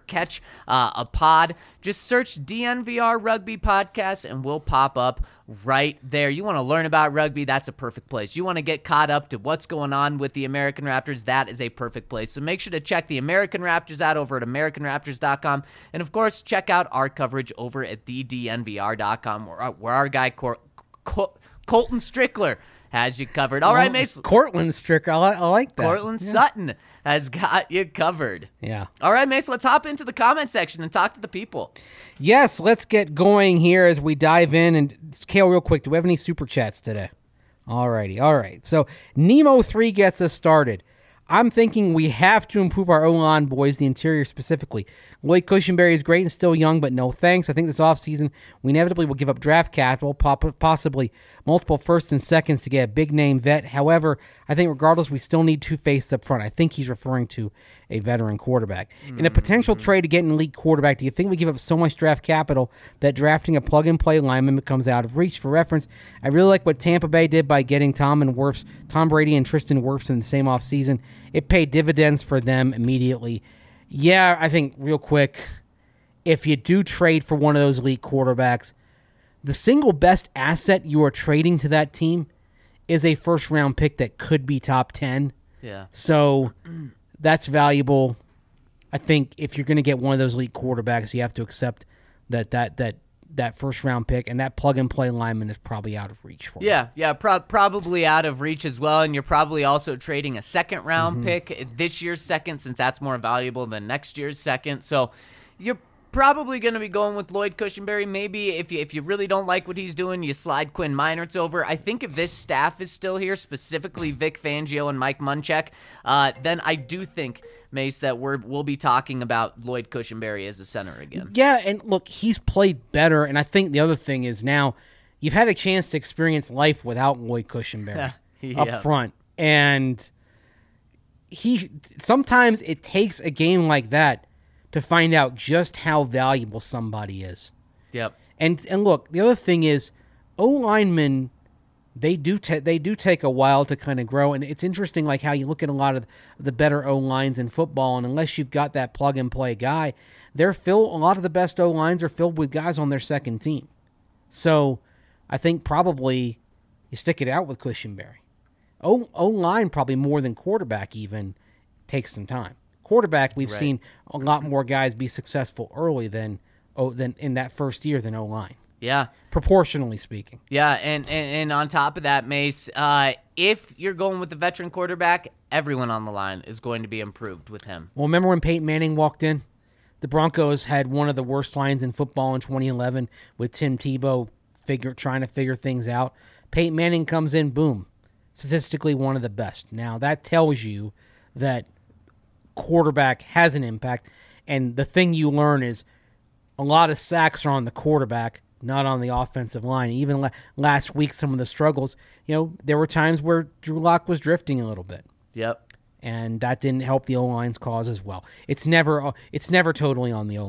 a pod. Just search DNVR Rugby Podcast and we'll pop up right there. You want to learn about rugby, that's a perfect place. You want to get caught up to what's going on with the American Raptors, that is a perfect place. So make sure to check the American Raptors out over at AmericanRaptors.com. And of course, check out our coverage over at thednvr.com where our guy Colton Strickler has you covered. All right, Mace. Cortland Strickler. I like that. Cortland Sutton has got you covered. Yeah. All right, Mace, let's hop into the comment section and talk to the people. Yes, let's get going here as we dive in. And Kale, real quick, do we have any super chats today? All righty. All right. So Nemo3 gets us started. I'm thinking we have to improve our O-line, boys, the interior specifically. Lloyd Cushenberry is great and still young, but no thanks. I think this offseason we inevitably will give up draft capital, possibly multiple firsts and seconds to get a big-name vet. However, I think regardless, we still need two faces up front. I think he's referring to a veteran quarterback. In a potential trade to get an elite quarterback, do you think we give up so much draft capital that drafting a plug-and-play lineman becomes out of reach? For reference, I really like what Tampa Bay did by getting Tom Brady and Tristan Wirfs in the same offseason. It paid dividends for them immediately. Yeah, I think real quick, if you do trade for one of those elite quarterbacks, the single best asset you are trading to that team is a first-round pick that could be top 10. Yeah. So that's valuable. I think if you're going to get one of those elite quarterbacks, you have to accept that first-round pick, and that plug-and-play lineman is probably out of reach for you. Yeah, probably out of reach as well, and you're probably also trading a second-round pick, this year's second, since that's more valuable than next year's second. So you're probably going to be going with Lloyd Cushenberry. Maybe if you really don't like what he's doing, you slide Quinn Meinerz over. I think if this staff is still here, specifically Vic Fangio and Mike Munchak, then I do think, Mace, that we'll be talking about Lloyd Cushenberry as a center again. Yeah, and look, he's played better, and I think the other thing is now you've had a chance to experience life without Lloyd Cushenberry up front, and sometimes it takes a game like that to find out just how valuable somebody is. Yep. And look, the other thing is O-linemen, they do take a while to kind of grow, and it's interesting like how you look at a lot of the better O-lines in football, and unless you've got that plug-and-play guy, a lot of the best O-lines are filled with guys on their second team. So I think probably you stick it out with Cushenberry. O-line probably more than quarterback even takes some time. Quarterback, we've seen a lot more guys be successful early than in that first year than O-line. Yeah. Proportionally speaking. Yeah, and on top of that, Mace, if you're going with the veteran quarterback, everyone on the line is going to be improved with him. Well, remember when Peyton Manning walked in? The Broncos had one of the worst lines in football in 2011 with Tim Tebow trying to figure things out. Peyton Manning comes in, boom, statistically one of the best. Now, that tells you that quarterback has an impact, and the thing you learn is a lot of sacks are on the quarterback, not on the offensive line. Even last week, some of the struggles, there were times where Drew Lock was drifting a little bit. Yep. And that didn't help the O-line's cause as well. It's never totally on the O-line.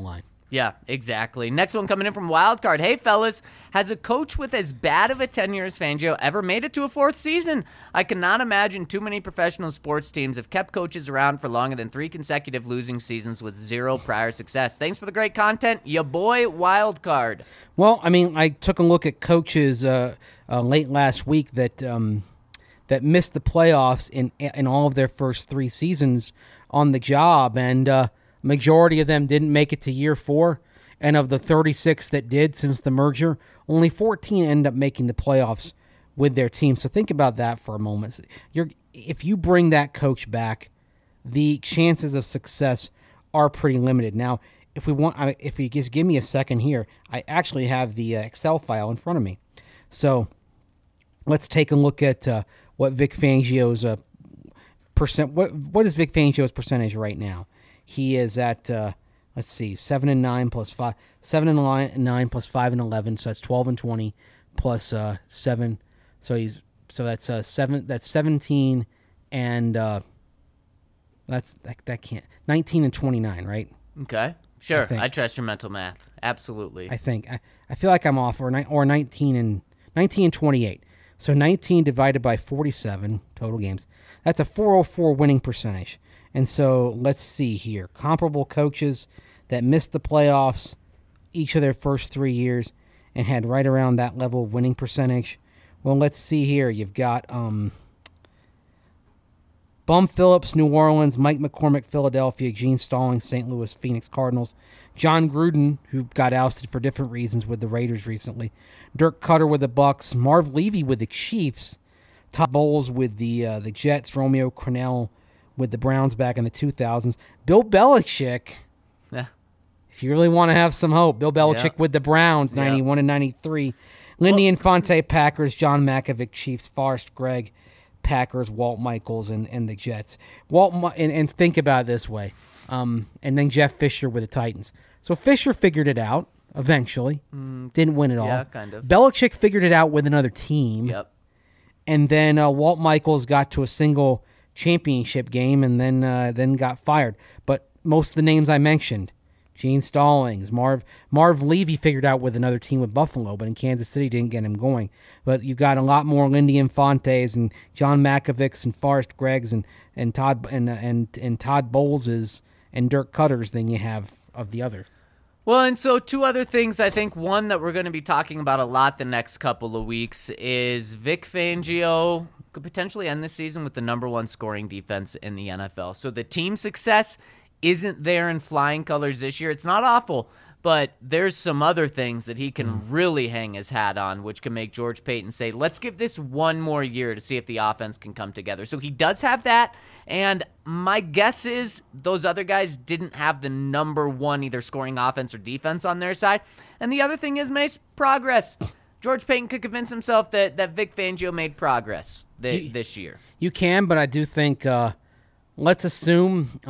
Yeah, exactly. Next one coming in from Wildcard. Hey, fellas, has a coach with as bad of a tenure as Fangio ever made it to a 4th season? I cannot imagine too many professional sports teams have kept coaches around for longer than 3 consecutive losing seasons with 0 prior success. Thanks for the great content, ya boy Wildcard. Well, I mean, I took a look at coaches late last week that missed the playoffs in all of their first 3 seasons on the job, and majority of them didn't make it to year 4, and of the 36 that did since the merger, only 14 ended up making the playoffs with their team. So think about that for a moment. If you bring that coach back, the chances of success are pretty limited. Now, if you just give me a second here, I actually have the Excel file in front of me. So let's take a look at what Vic Fangio's percent. What is Vic Fangio's percentage right now? He is at, let's see, 7-9 plus 5, 7-9 plus 5-11, so that's 12-20 plus 7. So that's 7. That's 17, and that can't 19-29, right? Okay, sure. I trust your mental math. Absolutely. I think I feel like I'm off, or 19 and 28. So 19 divided by 47 total games. That's a 404 winning percentage. And so let's see here. Comparable coaches that missed the playoffs each of their first 3 years and had right around that level of winning percentage. Well, let's see here. You've got Bum Phillips, New Orleans, Mike McCormick, Philadelphia, Gene Stallings, St. Louis, Phoenix Cardinals, John Gruden, who got ousted for different reasons with the Raiders recently, Dirk Cutter with the Bucks, Marv Levy with the Chiefs, Todd Bowles with the Jets, Romeo Crennel with the Browns back in the 2000s. Bill Belichick, if you really want to have some hope, Bill Belichick with the Browns, 91 and 93. Lindy Infante, Packers, John Malkovich, Chiefs, Forrest Gregg, Packers, Walt Michaels, and the Jets. And think about it this way. And then Jeff Fisher with the Titans. So Fisher figured it out eventually. Didn't win it all. Yeah, kind of. Belichick figured it out with another team. Yep. And then Walt Michaels got to a single championship game and then got fired. But most of the names I mentioned, Gene Stallings, Marv Levy figured out with another team with Buffalo, but in Kansas City didn't get him going. But you've got a lot more Lindy Infantes and John Malkovichs and Forrest Greggs and Todd Bowleses and Dirk Cutters than you have of the other. Well, and so 2 other things. I think one that we're going to be talking about a lot the next couple of weeks is Vic Fangio could potentially end this season with the number 1 scoring defense in the NFL. So the team success isn't there in flying colors this year. It's not awful, but there's some other things that he can really hang his hat on, which can make George Paton say, let's give this 1 more year to see if the offense can come together. So he does have that, and my guess is those other guys didn't have the number 1 either scoring offense or defense on their side. And the other thing is, Mace, progress. George Paton could convince himself that Vic Fangio made progress this year. You can, but I do think let's assume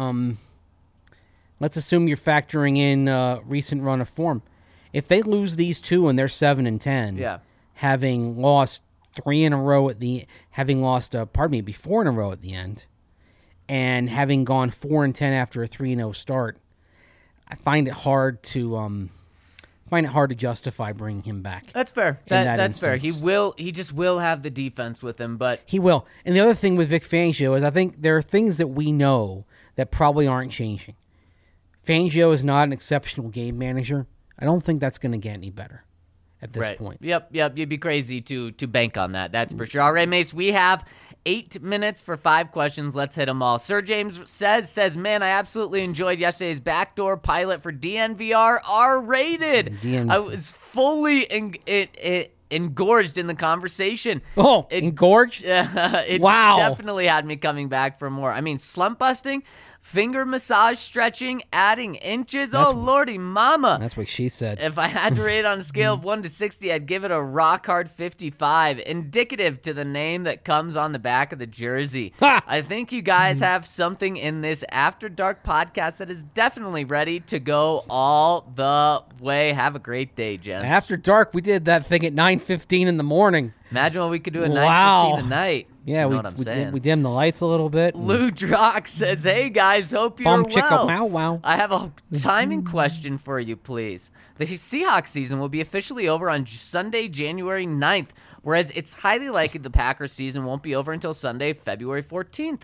you're factoring in recent run of form. If they lose these 2 and they're 7-10, having lost 3 in a row having lost 4 in a row at the end, and having gone 4-10 after a 3-0 start, I find it hard to justify bringing him back. That's fair. That's fair. He just will have the defense with him, but he will. And the other thing with Vic Fangio is I think there are things that we know that probably aren't changing. Fangio is not an exceptional game manager. I don't think that's going to get any better at this point. Yep. You'd be crazy to bank on that. That's for sure. All right, Mace, we have 8 minutes for 5 questions. Let's hit them all. Sir James says, man, I absolutely enjoyed yesterday's backdoor pilot for DNVR R-rated. I was fully engorged in the conversation. Oh, engorged? It wow. Definitely had me coming back for more. I mean, slump busting, finger massage, stretching, adding inches. Lordy mama. That's what she said. If I had to rate it on a scale of 1 to 60, I'd give it a rock hard 55, indicative to the name that comes on the back of the jersey. I think you guys have something in this After Dark podcast that is definitely ready to go all the way. Have a great day, gents. After Dark, we did that thing at 9:15 in the morning. Imagine what we could do at 9:15 tonight. Yeah, You know what I'm saying? we dimmed the lights a little bit. Lou Drock says, "Hey guys, hope you're Bum well. chicka wow wow. I have a timing question for you, please. The Seahawks season will be officially over on Sunday, January 9th, whereas it's highly likely the Packers season won't be over until Sunday, February 14th.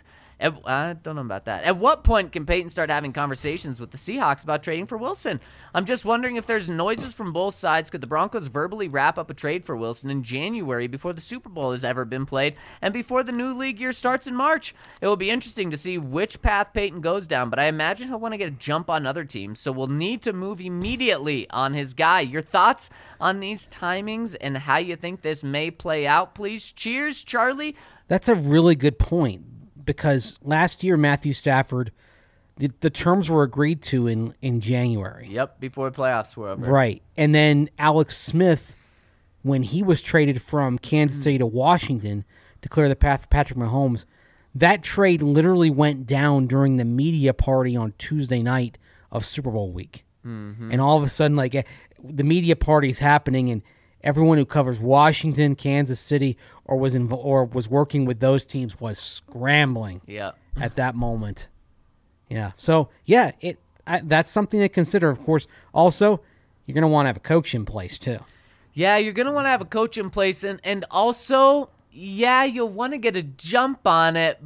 I don't know about that. At what point can Peyton start having conversations with the Seahawks about trading for Wilson? I'm just wondering if there's noises from both sides. Could the Broncos verbally wrap up a trade for Wilson in January before the Super Bowl has ever been played and before the new league year starts in March? It will be interesting to see which path Peyton goes down, but I imagine he'll want to get a jump on other teams, so we'll need to move immediately on his guy. Your thoughts on these timings and how you think this may play out, please? Cheers, Charlie. That's a really good point. Because last year, Matthew Stafford, the terms were agreed to in January. Yep, before the playoffs were over. Right. And then Alex Smith, when he was traded from Kansas City to Washington to clear the path for Patrick Mahomes, that trade literally went down during the media party on Tuesday night of Super Bowl week. Mm-hmm. And all of a sudden, the media party is happening, and everyone who covers Washington, Kansas City, or was working with those teams was scrambling at that moment. Yeah. So, yeah, that's something to consider, of course. Also, you're going to want to have a coach in place, too. Yeah, you're going to want to have a coach in place. And also, yeah, you'll want to get a jump on it.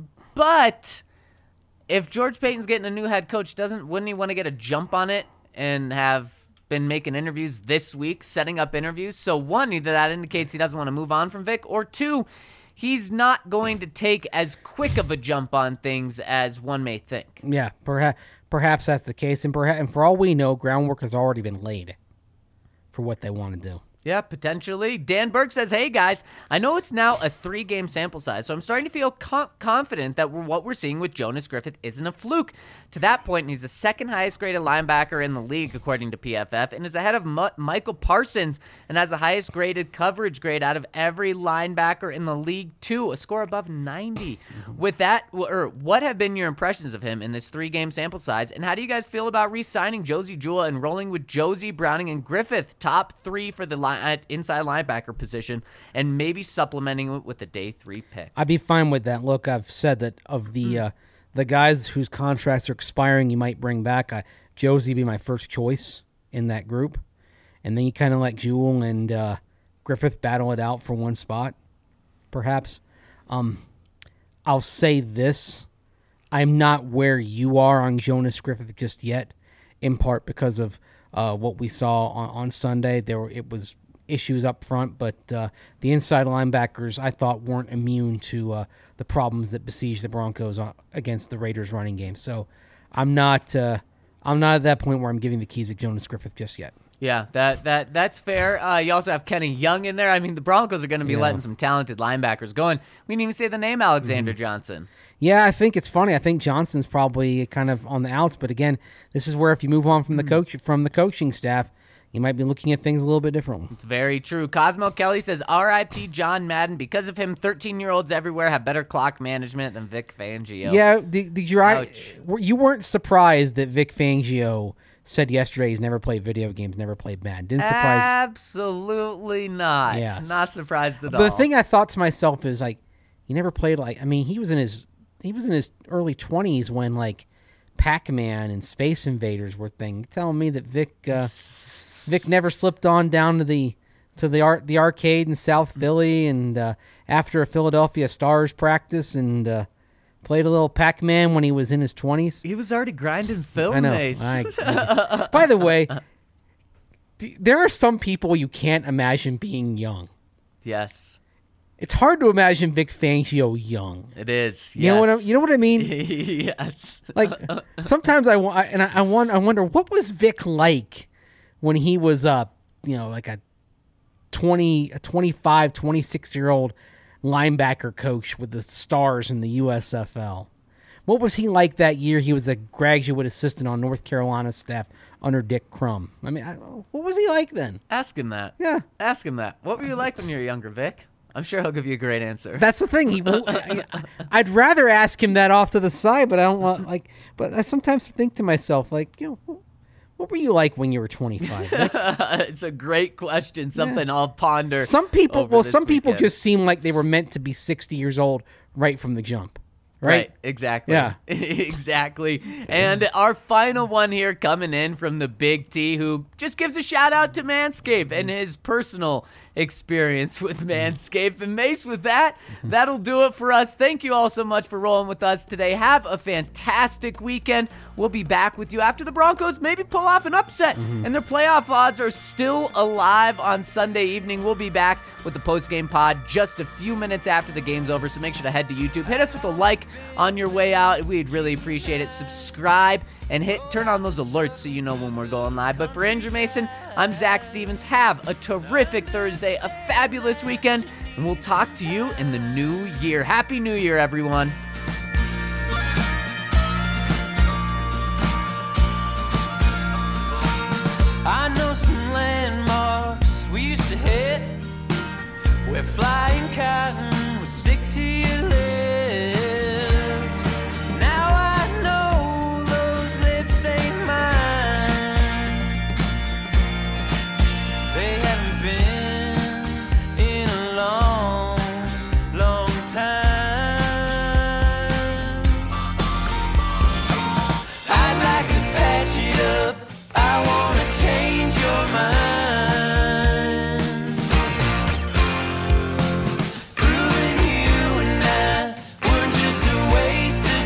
But if George Payton's getting a new head coach, wouldn't he want to get a jump on it and have been making interviews this week, setting up interviews? So one, either that indicates he doesn't want to move on from Vic, or two, he's not going to take as quick of a jump on things as one may think. Yeah, perhaps that's the case, and for all we know, groundwork has already been laid for what they want to do. Yeah, potentially. Dan Burke says, "Hey, guys, I know it's now a 3-game sample size, so I'm starting to feel confident that what we're seeing with Jonas Griffith isn't a fluke. To that point, he's the second highest graded linebacker in the league, according to PFF, and is ahead of Michael Parsons and has the highest graded coverage grade out of every linebacker in the league, too, a score above 90. With that, what have been your impressions of him in this 3-game sample size, and how do you guys feel about re-signing Josie Jewell and rolling with Josie, Browning, and Griffith, top 3 for the inside linebacker position, and maybe supplementing it with a day 3 pick?" I'd be fine with that. Look, I've said that of the guys whose contracts are expiring, you might bring back. Josie be my first choice in that group, and then you kind of let Jewell and Griffith battle it out for one spot, perhaps. I'll say this: I'm not where you are on Jonas Griffith just yet, in part because of what we saw on Sunday. It was issues up front, but the inside linebackers I thought weren't immune to the problems that besieged the Broncos against the Raiders running game. So I'm not at that point where I'm giving the keys to Jonas Griffith just yet. Yeah, that's fair. You also have Kenny Young in there. I mean, the Broncos are going to be letting some talented linebackers going. We didn't even say the name Alexander Johnson. Yeah, I think it's funny. I think Johnson's probably kind of on the outs, but again, this is where if you move on from the coaching staff, you might be looking at things a little bit differently. It's very true. Cosmo Kelly says, "R.I.P. John Madden. Because of him, 13-year-olds everywhere have better clock management than Vic Fangio." Yeah, you weren't surprised that Vic Fangio said yesterday he's never played video games, never played Madden. Didn't surprise. Absolutely not. Yes. Not surprised at all. But the thing I thought to myself is he never played he was in his early 20s when Pac-Man and Space Invaders were thing. Telling me that Vic never slipped on down to the arcade in South Philly and after a Philadelphia Stars practice and played a little Pac-Man when he was in his 20s. He was already grinding film. I know. Mace. By the way, there are some people you can't imagine being young. Yes. It's hard to imagine Vic Fangio young. It is. You know what I mean? Yes. Sometimes I wonder what was Vic like when he was a 25, 26-year-old linebacker coach with the Stars in the USFL. What was he like that year he was a graduate assistant on North Carolina's staff under Dick Crum? I mean, what was he like then? Ask him that. Yeah. Ask him that. What were you like when you were younger, Vic? I'm sure he'll give you a great answer. That's the thing. I'd rather ask him that off to the side, but I don't want But I sometimes think to myself, what were you like when you were 25? It's a great question. Something I'll ponder. Some people just just seem like they were meant to be 60 years old right from the jump. Right, exactly. Yeah. Exactly. And our final one here coming in from the Big T, who just gives a shout out to Manscaped and his personal experience with Manscaped. And Mace, with that, that'll do it for us. Thank you all so much for rolling with us today. Have a fantastic weekend. We'll be back with you after the Broncos maybe pull off an upset and their playoff odds are still alive on Sunday evening. We'll be back with the post-game pod just a few minutes after the game's over, so make sure to head to YouTube. Hit us with a like on your way out. We'd really appreciate it. Subscribe and turn on those alerts so you know when we're going live. But for Andrew Mason, I'm Zach Stevens. Have a terrific Thursday, a fabulous weekend, and we'll talk to you in the new year. Happy New Year, everyone. I know some landmarks we used to hit, where flying cotton would stick to your lips. Now I know those lips ain't mine. They haven't been in a long, long time. I'd like to patch it up. I wanna change your mind. Proving you and I weren't just a waste of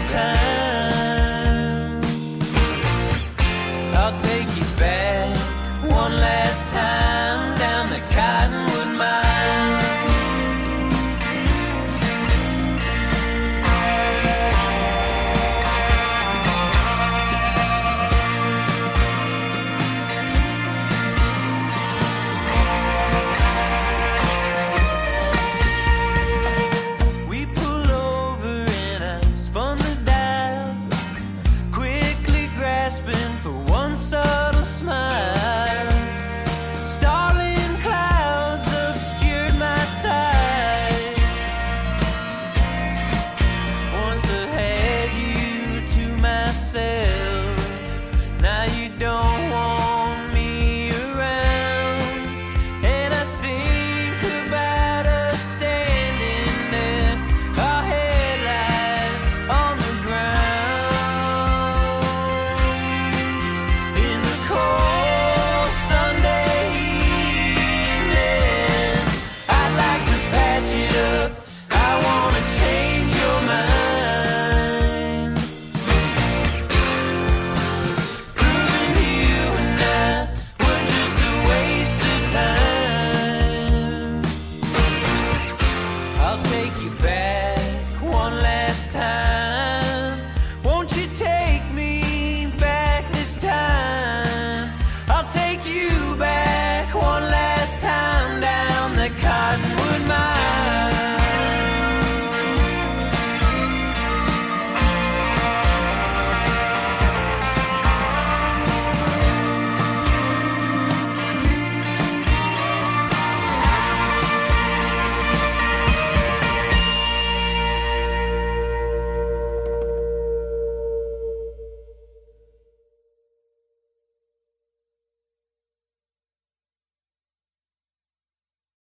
time. I'll take you back one last time down the Cottonwood Mine. We pull over and I spun the dial, quickly grasping for one subtle smile. Starling clouds obscured my sight. Once I had you to myself.